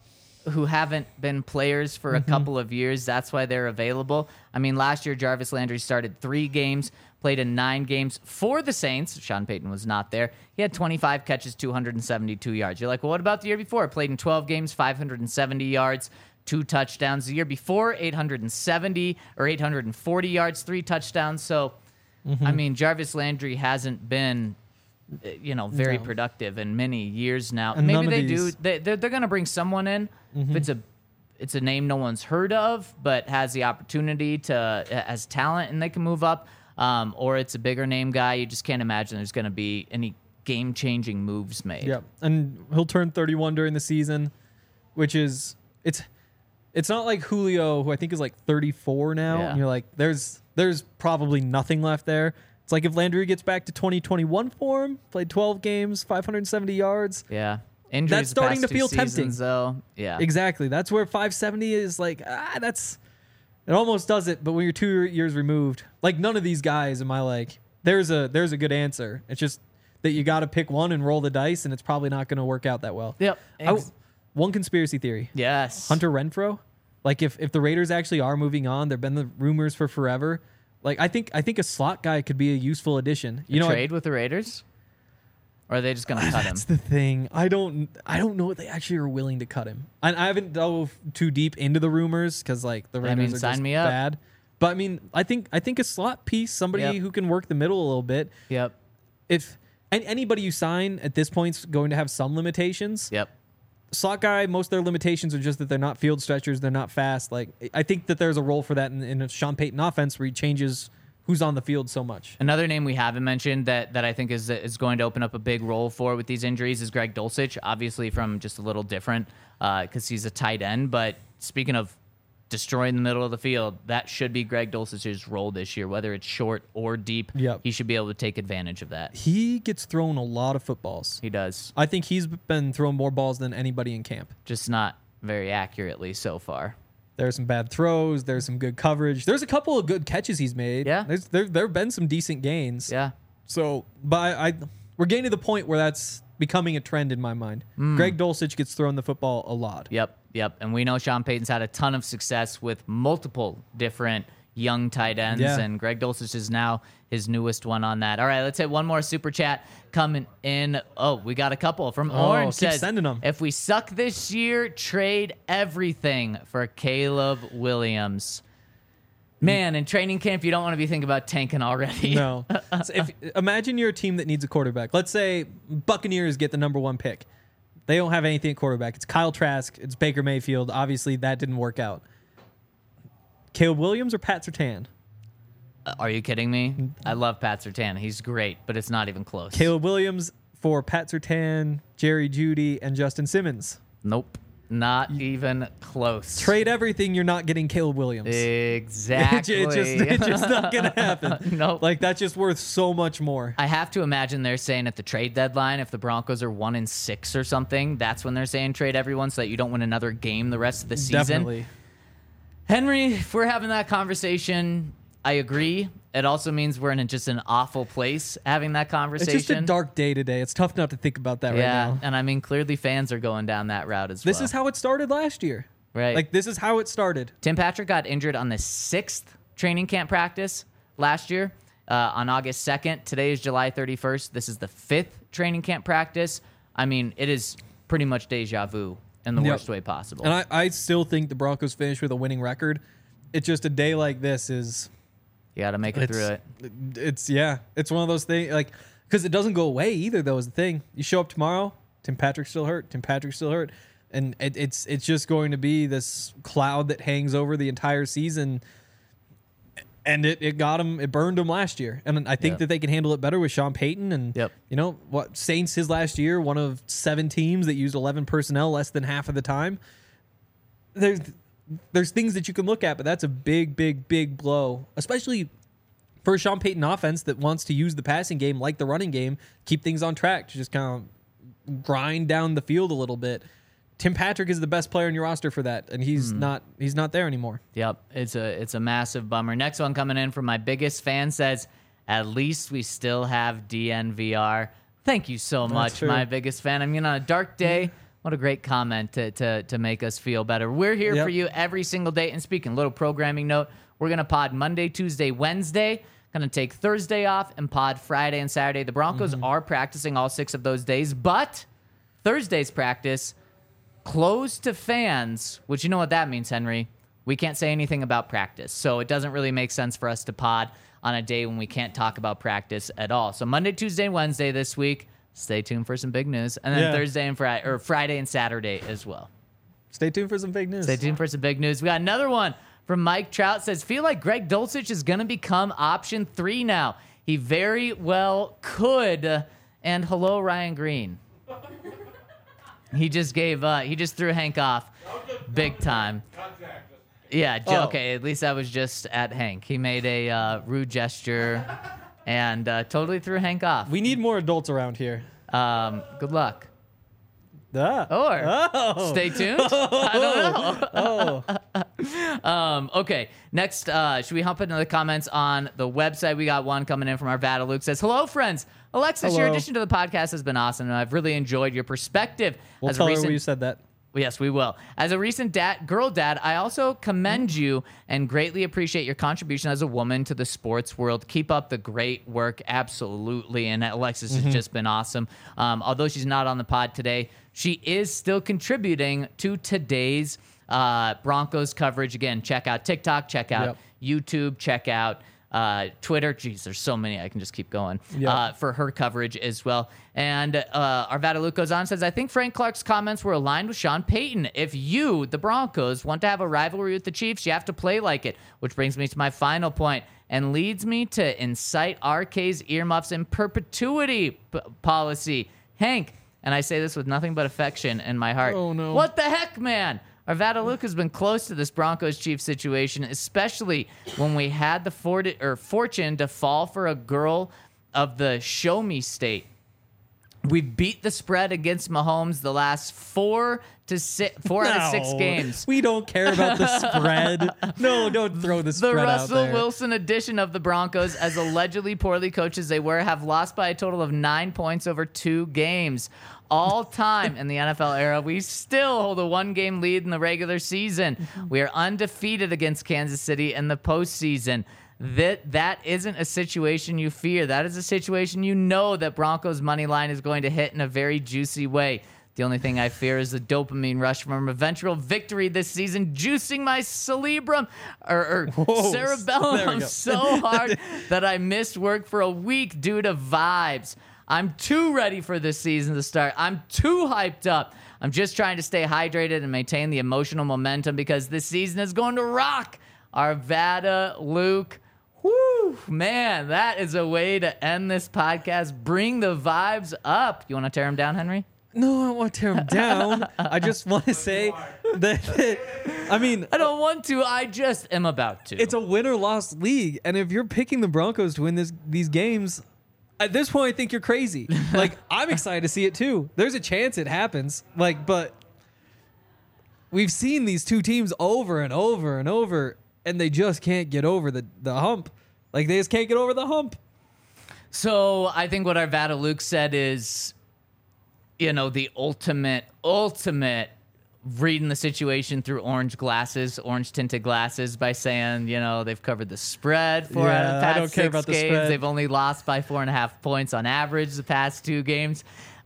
who haven't been players for Mm-hmm. a couple of years. That's why they're available. I mean, last year, Jarvis Landry started three games, played in nine games for the Saints. Sean Payton was not there. He had twenty-five catches, two hundred seventy-two yards. You're like, well, what about the year before? Played in twelve games, five hundred seventy yards, two touchdowns. The year before, eight hundred seventy or eight hundred forty yards, three touchdowns. So, mm-hmm. I mean, Jarvis Landry hasn't been, you know, very No. productive in many years now. And Maybe none of they these- do. They, they're they're going to bring someone in. Mm-hmm. If it's a it's a name no one's heard of, but has the opportunity to as talent, and they can move up. Um, or it's a bigger name guy. You just can't imagine there's going to be any game changing moves made. Yep, and he'll turn thirty-one during the season, which is it's it's not like Julio, who I think is like thirty-four now. Yeah. And you're like, there's there's probably nothing left there. It's like if Landry gets back to twenty twenty-one form, played twelve games, five hundred seventy yards. Yeah. Injuries That's starting the to past feel two tempting. seasons, though. Yeah. Exactly. That's where five seventy is like, ah, that's, it almost does it. But when you're two years removed, like none of these guys am I like, there's a, there's a good answer. It's just that you got to pick one and roll the dice, and it's probably not going to work out that well. Yep. I- Ex- one conspiracy theory. yes. Hunter Renfro. Like if, if the Raiders actually are moving on, there've been the rumors for forever. Like I think, I think a slot guy could be a useful addition. You know, Trade with the Raiders? Or are they just going to cut him? that's the thing. I don't. I don't know if they actually are willing to cut him. And I haven't dove too deep into the rumors because like the Raiders mean, are sign just me up. bad. But I mean, I think I think a slot piece, somebody Yep. who can work the middle a little bit. Yep. If and anybody you sign at this point's going to have some limitations. Yep. Slot guy, most of their limitations are just that they're not field stretchers, they're not fast. Like I think that there's a role for that in, in a Sean Payton offense where he changes who's on the field so much. Another name we haven't mentioned that, that I think is is going to open up a big role for with these injuries is Greg Dulcich, obviously from just a little different because uh, he's a tight end. But speaking of destroying the middle of the field, that should be Greg Dulcich's role this year, whether it's short or deep. Yep. He should be able to take advantage of that. He gets thrown a lot of footballs. He does, I think he's been throwing more balls than anybody in camp. just not very accurately so far. There's some bad throws. There's some good coverage. There's a couple of good catches he's made. Yeah. There's, there there have been some decent gains. Yeah. So, but I, I we're getting to the point where that's becoming a trend in my mind. Hmm. Greg Dulcich gets thrown the football a lot. Yep, yep. And we know Sean Payton's had a ton of success with multiple different young tight ends, Yeah. and Greg Dulcich is now his newest one on that. All right, let's hit one more super chat coming in. Oh, we got a couple from Oh, Orange. keep Says, sending 'em. if we suck this year, trade everything for Caleb Williams. Man, in training camp, you don't want to be thinking about tanking already. No. So if imagine you're a team that needs a quarterback. Let's say Buccaneers get the number one pick. They don't have anything at quarterback. It's Kyle Trask. It's Baker Mayfield. Obviously, that didn't work out. Caleb Williams or Pat Surtain? Uh, Are you kidding me? I love Pat Surtain. He's great, but it's not even close. Caleb Williams for Pat Surtain, Jerry Jeudy, and Justin Simmons. Nope. Not even close. Trade everything. You're not getting Caleb Williams. Exactly. It's just, it's just not gonna happen. Nope. Like that's just worth so much more. I have to imagine they're saying at the trade deadline, if the Broncos are one in six or something, that's when they're saying trade everyone so that you don't win another game the rest of the season. Definitely. Henry, if we're having that conversation, I agree. It also means we're in just an awful place having that It's conversation. just a dark day today. It's tough not to think about that yeah, right now. and I mean, clearly fans are going down that route as This well. is how it started last year. Right. Like this is how it started. Tim Patrick got injured on the sixth training camp practice last year uh, on August second. Today is July thirty-first. This is the fifth training camp practice. I mean, it is pretty much deja vu in the Yep. worst way possible. And I, I still think the Broncos finish with a winning record. It's just a day like this is. you got to make it It's, through it. it's yeah. It's one of those things like because it doesn't go away either. Though is the thing. You show up tomorrow, Tim Patrick's still hurt. Tim Patrick's still hurt, and it, it's it's just going to be this cloud that hangs over the entire season. And it, it got him, it burned him last year. And I think Yep. that they can handle it better with Sean Payton. And, Yep. you know, what Saints his last year, one of seven teams that used eleven personnel less than half of the time. There's there's things that you can look at, but that's a big, big, big blow, especially for a Sean Payton offense that wants to use the passing game like the running game, keep things on track, to just kind of grind down the field a little bit. Tim Patrick is the best player in your roster for that, and he's not he's not there anymore. Yep, it's a it's a massive bummer. Next one coming in from my biggest fan says, "At least we still have D N V R." Thank you so much, true. my biggest fan. I mean, on a dark day, what a great comment to to to make us feel better. We're here Yep. for you every single day. And speaking, little programming note: we're gonna pod Monday, Tuesday, Wednesday. Gonna take Thursday off and pod Friday and Saturday. The Broncos are practicing all six of those days, but Thursday's practice. Closed to fans, which you know what that means, Henry. We can't say anything about practice. So it doesn't really make sense for us to pod on a day when we can't talk about practice at all. So Monday, Tuesday, and Wednesday this week, stay tuned for some big news. And then Yeah. Thursday and Friday, or Friday and Saturday as well. Stay tuned for some big news. Stay tuned for some big news. We got another one from Mike Trout. Says, feel like Greg Dulcich is going to become option three now. He very well could. And hello, Ryan Green. He just gave, uh, he just threw Hank off big time. Yeah, j- Oh. okay, at least I was just at Hank. He made a uh, rude gesture and uh, totally threw Hank off. We need more adults around here. Um, good luck. Ah. Or Oh. stay tuned. I don't know. Oh. Um, okay, next, uh, should we hop into the comments on the website? We got one coming in from our Vada Luke. Says, hello, friends. Alexis, your Hello. addition to the podcast has been awesome, and I've really enjoyed your perspective. We'll As a tell recent- her we said that. Yes, we will. As a recent dad, girl dad, I also commend you and greatly appreciate your contribution as a woman to the sports world. Keep up the great work. Absolutely. And Alexis has just been awesome. Um, although she's not on the pod today, she is still contributing to today's uh, Broncos coverage. Again, check out TikTok, check out Yep. YouTube, check out uh, Twitter. Jeez, there's so many. I can just keep going Yep. uh, for her coverage as well. And uh, Arvada Luke goes on and says, I think Frank Clark's comments were aligned with Sean Payton. If you, the Broncos, want to have a rivalry with the Chiefs, you have to play like it, which brings me to my final point and leads me to incite R K's earmuffs in perpetuity p- policy. Hank, and I say this with nothing but affection in my heart. Oh, no. What the heck, man? Arvada Luke has been close to this Broncos Chiefs situation, especially when we had the for- or fortune to fall for a girl of the show me state. We beat the spread against Mahomes the last four to six, four out of six No, games. We don't care about the spread. No, don't throw the The spread out Russell there. Wilson edition of the Broncos, as allegedly poorly coached as they were, have lost by a total of nine points over two games. All time in the N F L era, we still hold a one-game lead in the regular season. We are undefeated against Kansas City in the postseason. That that isn't a situation you fear. That is a situation you know that Broncos money line is going to hit in a very juicy way. The only thing I fear is the dopamine rush from a eventual victory this season, juicing my cerebrum or, or Whoa, there cerebellum we go. so hard that I missed work for a week due to vibes. I'm too ready for this season to start. I'm too hyped up. I'm just trying to stay hydrated and maintain the emotional momentum because this season is going to rock. Arvada, Luke, whoo, man, that is a way to end this podcast. Bring the vibes up. You want to tear them down, Henry? No, I don't want to tear him down. I just want to say that, I mean, I don't want to. I just am about to. it's a win or loss league. And if you're picking the Broncos to win this these games, at this point, I think you're crazy. Like, I'm excited to see it too. There's a chance it happens. Like, but we've seen these two teams over and over and over, and they just can't get over the, the hump. Like, they just can't get over the hump. So I think what Arvada Luke said is, you know, the ultimate, ultimate reading the situation through orange glasses, orange tinted glasses by saying, you know, they've covered the spread four out of Yeah, the I past don't care six about the games. spread. They've only lost by four and a half points on average the past two games.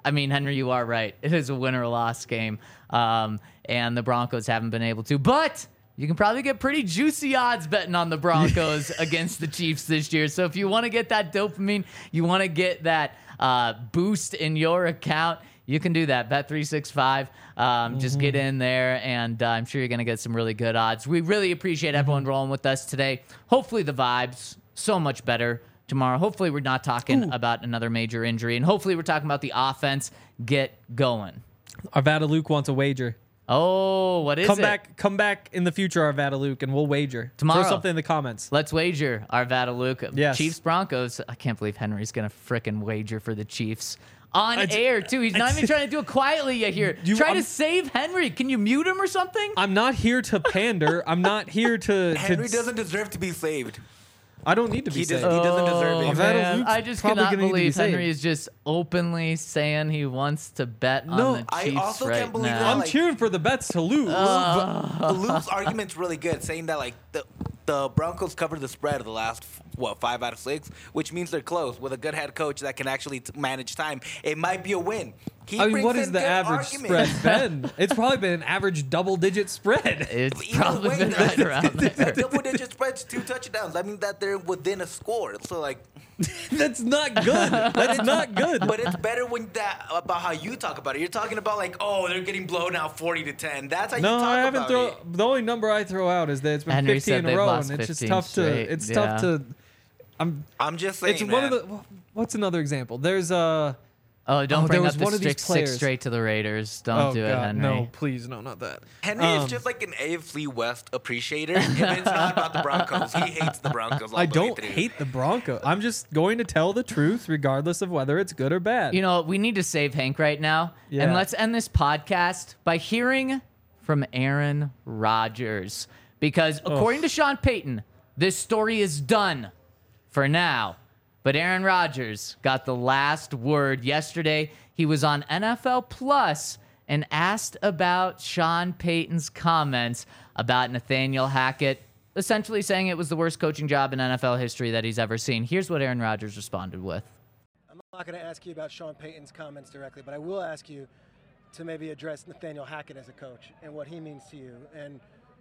I mean, Henry, you are right. It is a win or loss game, um, and the Broncos haven't been able to. But you can probably get pretty juicy odds betting on the Broncos against the Chiefs this year. So if you want to get that dopamine, you want to get that uh, boost in your account, you can do that. Bet three sixty-five. Um, mm-hmm. Just get in there, and uh, I'm sure you're going to get some really good odds. We really appreciate everyone mm-hmm. rolling with us today. Hopefully the vibes so much better tomorrow. Hopefully we're not talking Ooh. about another major injury, and hopefully we're talking about the offense get going. Arvada Luke wants a wager. Oh, what is come it? Come back, come back in the future, Arvada Luke, and we'll wager. Tomorrow. Throw something in the comments. Let's wager, Arvada Luke. Yes. Chiefs Broncos. I can't believe Henry's going to frickin' wager for the Chiefs. On It's- air, too. He's not even trying to do it quietly yet here. You- Try I'm- to save Henry. Can you mute him or something? I'm not here to pander. I'm not here to. to Henry doesn't deserve to be saved. I don't need to be He does- saved. he doesn't deserve Oh, it. Arvada man. Luke's I just probably cannot gonna need to be believe saved. Henry is just openly saying he wants to bet on No, the I Chiefs also right can't believe now. that, I'm like- cheering for the bets to lose. Uh, Luke's argument's really good, saying that like the the Broncos covered the spread of the last what five out of six, which means they're close. With a good head coach that can actually t- manage time, it might be a win. He I mean, brings what in is the good average arguments. spread been? It's probably been an average double-digit spread. It's Either probably way, been right around there. double digit spreads, two touchdowns. I mean that they're within a score. So like, That's not good. That's not good. but it's better when that about how you talk about it. You're talking about like, oh, they're getting blown out forty to ten. That's how No, you talk I haven't about throw. it. The only number I throw out is that it's been Henry fifteen said in a they've row, lost and it's just fifteen tough straight, to. It's yeah. tough to. I'm. I'm just saying. It's one of man. the. What's another example? There's a. Oh, don't Oh, bring there up was the one of these six, six players. straight to the Raiders. Don't oh do it, God, Henry. no, please, no, not that. Henry Um, is just like an A F C West appreciator. If it's not about the Broncos, he hates the Broncos. All I the way don't through. hate the Broncos. I'm just going to tell the truth, regardless of whether it's good or bad. You know, we need to save Hank right now. Yeah. And let's end this podcast by hearing from Aaron Rodgers. Because according to Sean Payton, this story is done for now. But Aaron Rodgers got the last word yesterday. He was on N F L Plus and asked about Sean Payton's comments about Nathaniel Hackett, essentially saying it was the worst coaching job in N F L history that he's ever seen. Here's what Aaron Rodgers responded with. I'm not going to ask you about Sean Payton's comments directly, but I will ask you to maybe address Nathaniel Hackett as a coach and what he means to you and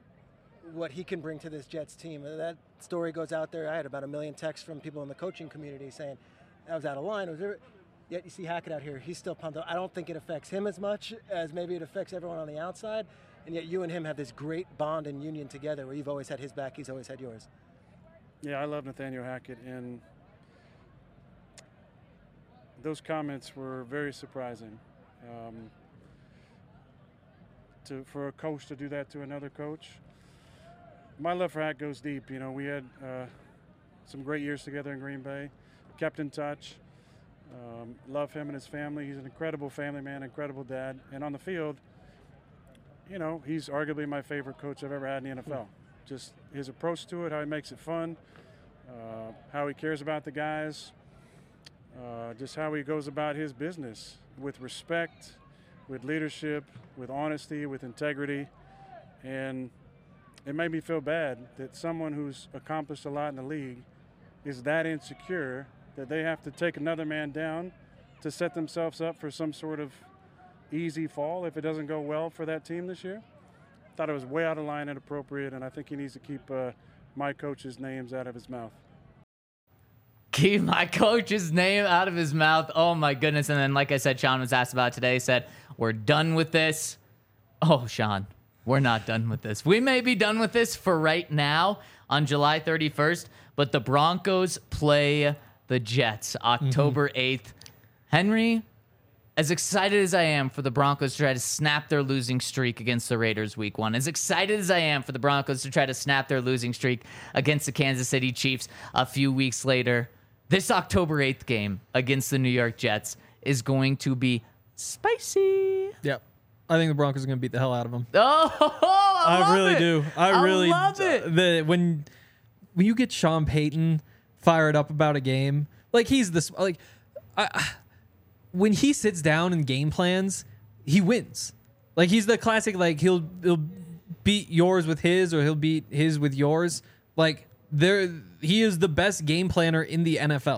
what he can bring to this Jets team. That story goes out there. I had about a million texts from people in the coaching community saying that was out of line. Was there, yet you see Hackett out here. He's still pumped up. I don't think it affects him as much as maybe it affects everyone on the outside. And yet you and him have this great bond and union together where you've always had his back, he's always had yours. Yeah, I love Nathaniel Hackett, and those comments were very surprising. Um, to for a coach to do that to another coach. My love for Hack goes deep. You know, we had uh, some great years together in Green Bay, kept in touch. Um, love him and his family. He's an incredible family man, incredible dad. And on the field, you know, he's arguably my favorite coach I've ever had in the N F L. Just his approach to it, how he makes it fun, uh, how he cares about the guys, uh, just how he goes about his business with respect, with leadership, with honesty, with integrity. And it made me feel bad that someone who's accomplished a lot in the league is that insecure that they have to take another man down to set themselves up for some sort of easy fall if it doesn't go well for that team this year. Thought it was way out of line and inappropriate, and I think he needs to keep uh, my coach's names out of his mouth. Keep my coach's name out of his mouth. Oh, my goodness. And then, like I said, Sean was asked about it today. He said, we're done with this. Oh, Sean, we're not done with this. We may be done with this for right now on July thirty-first, but the Broncos play the Jets October eighth. Henry, as excited as I am for the Broncos to try to snap their losing streak against the Raiders week one, as excited as I am for the Broncos to try to snap their losing streak against the Kansas City Chiefs a few weeks later, this October eighth game against the New York Jets is going to be spicy. Yep. I think the Broncos are going to beat the hell out of them. Oh, I, love I really it. do. I, I really love it. The when when you get Sean Payton fired up about a game, like he's this like I, when he sits down and game plans, he wins. Like he's the classic like he'll he'll beat yours with his or he'll beat his with yours. Like there he is the best game planner in the N F L.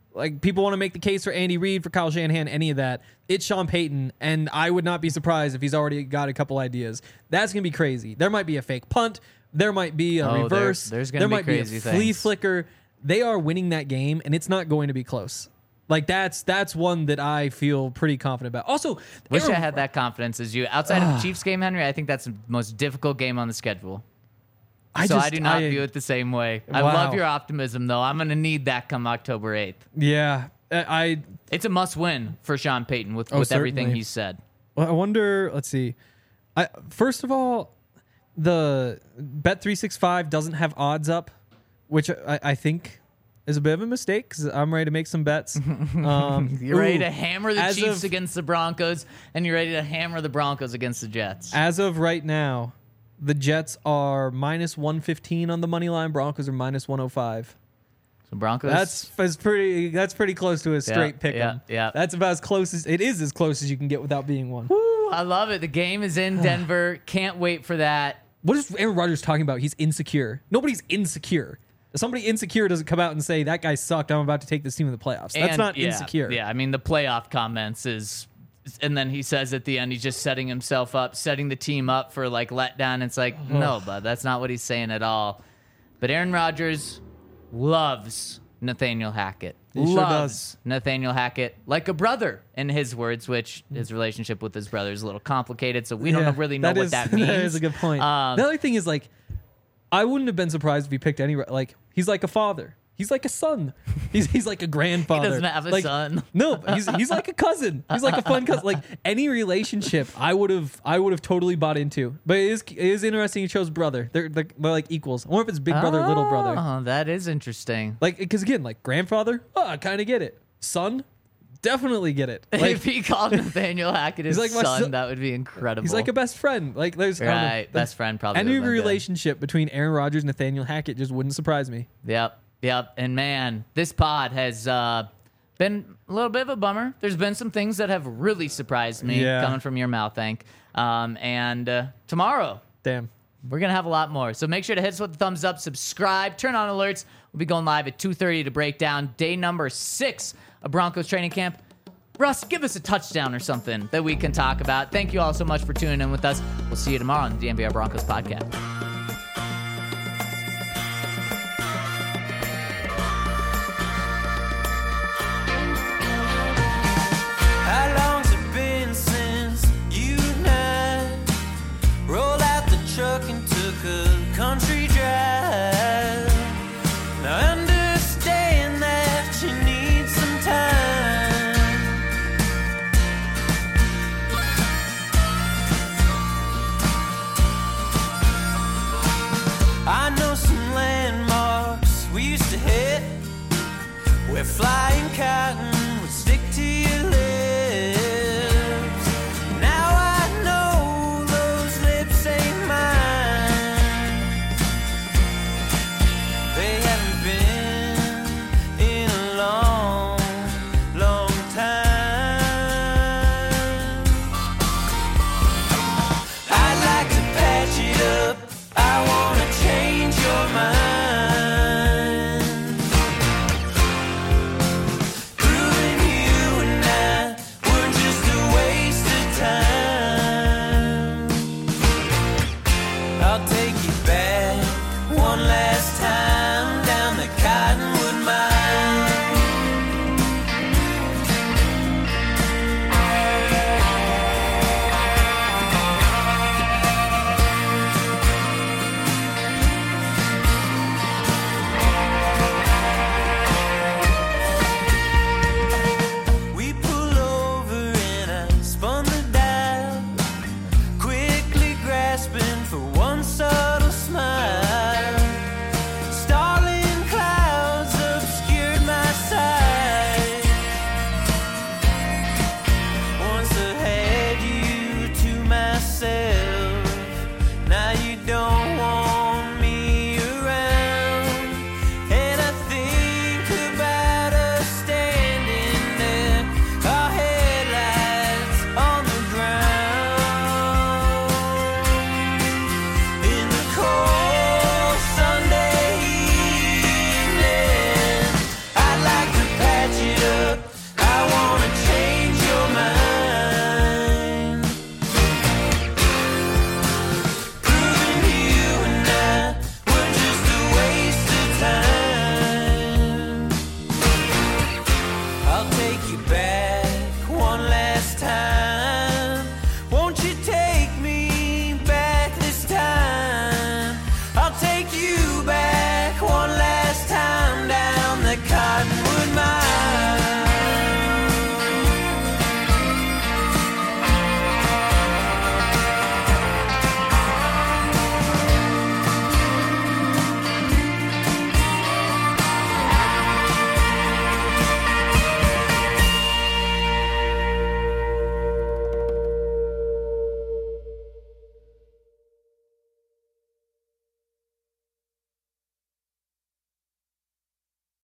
Like, people want to make the case for Andy Reid, for Kyle Shanahan, any of that. It's Sean Payton, and I would not be surprised if he's already got a couple ideas. That's going to be crazy. There might be a fake punt. There might be a Oh, there- reverse. there's gonna there be might crazy be a flea things. flicker. They are winning that game, and it's not going to be close. Like, that's that's one that I feel pretty confident about. Also, Wish Aaron- I had that confidence as you. Outside of the Chiefs game, Henry, I think that's the most difficult game on the schedule. I so just, I do not I- view it the same way. I Wow. love your optimism, though. I'm going to need that come October eighth. Yeah, I It's a must-win for Sean Payton with, Oh, with everything certainly. he's said. Well, I wonder. Let's see. I first of all, the Bet three sixty-five doesn't have odds up, which I, I think is a bit of a mistake because I'm ready to make some bets. Um, You're ready ooh, to hammer the as Chiefs of- against the Broncos, and you're ready to hammer the Broncos against the Jets. As of right now, the Jets are minus one fifteen on the money line. Broncos are minus one oh five. So Broncos. That's that's pretty. That's pretty close to a straight pick 'em. yeah, yeah. That's about as close as it is. As close as you can get without being one. Woo, I love it. The game is in Denver. Can't wait for that. What is Aaron Rodgers talking about? He's insecure. Nobody's insecure. If somebody insecure doesn't come out and say that guy sucked, I'm about to take this team to the playoffs. That's And, not yeah, insecure. Yeah, I mean the playoff comments is, and then he says at the end he's just setting himself up, setting the team up for like letdown. It's like no, bud, that's not what he's saying at all. But Aaron Rodgers loves Nathaniel Hackett. He sure loves does. Nathaniel Hackett like a brother, in his words, which his relationship with his brother is a little complicated, so we Yeah, don't really know that what is- that means. That is a good point. Um, the other thing is like, I wouldn't have been surprised if he picked any. Like he's like a father. He's like a son. He's he's like a grandfather. doesn't have a Like, son. No, he's he's like a cousin. He's like a fun cousin. Like any relationship, I would have I would have totally bought into. But it is it is interesting. He chose brother. They're they're, they're like equals. I wonder if it's big brother, little brother. Oh, that is interesting. Like because again, like grandfather. Oh, I kind of get it. Son, definitely get it. Like if he called Nathaniel Hackett his like my son, son- that would be incredible. he's like a best friend. Like there's I don't know. Right, best friend probably Any would've been good. relationship between Aaron Rodgers and Nathaniel Hackett just wouldn't surprise me. Yep, yep. And man, this pod has uh, been a little bit of a bummer. There's been some things that have really surprised me Yeah. coming from your mouth, Hank. Um, and uh, tomorrow, Damn. we're going to have a lot more. So make sure to hit us with the thumbs up, subscribe, turn on alerts. We'll be going live at two thirty to break down day number six of Broncos training camp. Russ, give us a touchdown or something that we can talk about. Thank you all so much for tuning in with us. We'll see you tomorrow on the D N V R Broncos podcast. How long's it been since you and I rolled out the truck and took a country drive? Now I understand that you need some time. I know some landmarks we used to hit where flying cotton would stick to your lips. Now I know those lips ain't mine. They haven't been in a long, long time. I'd like to patch it up. I wanna change your mind. Proving you and I were just a waste of time. I'll take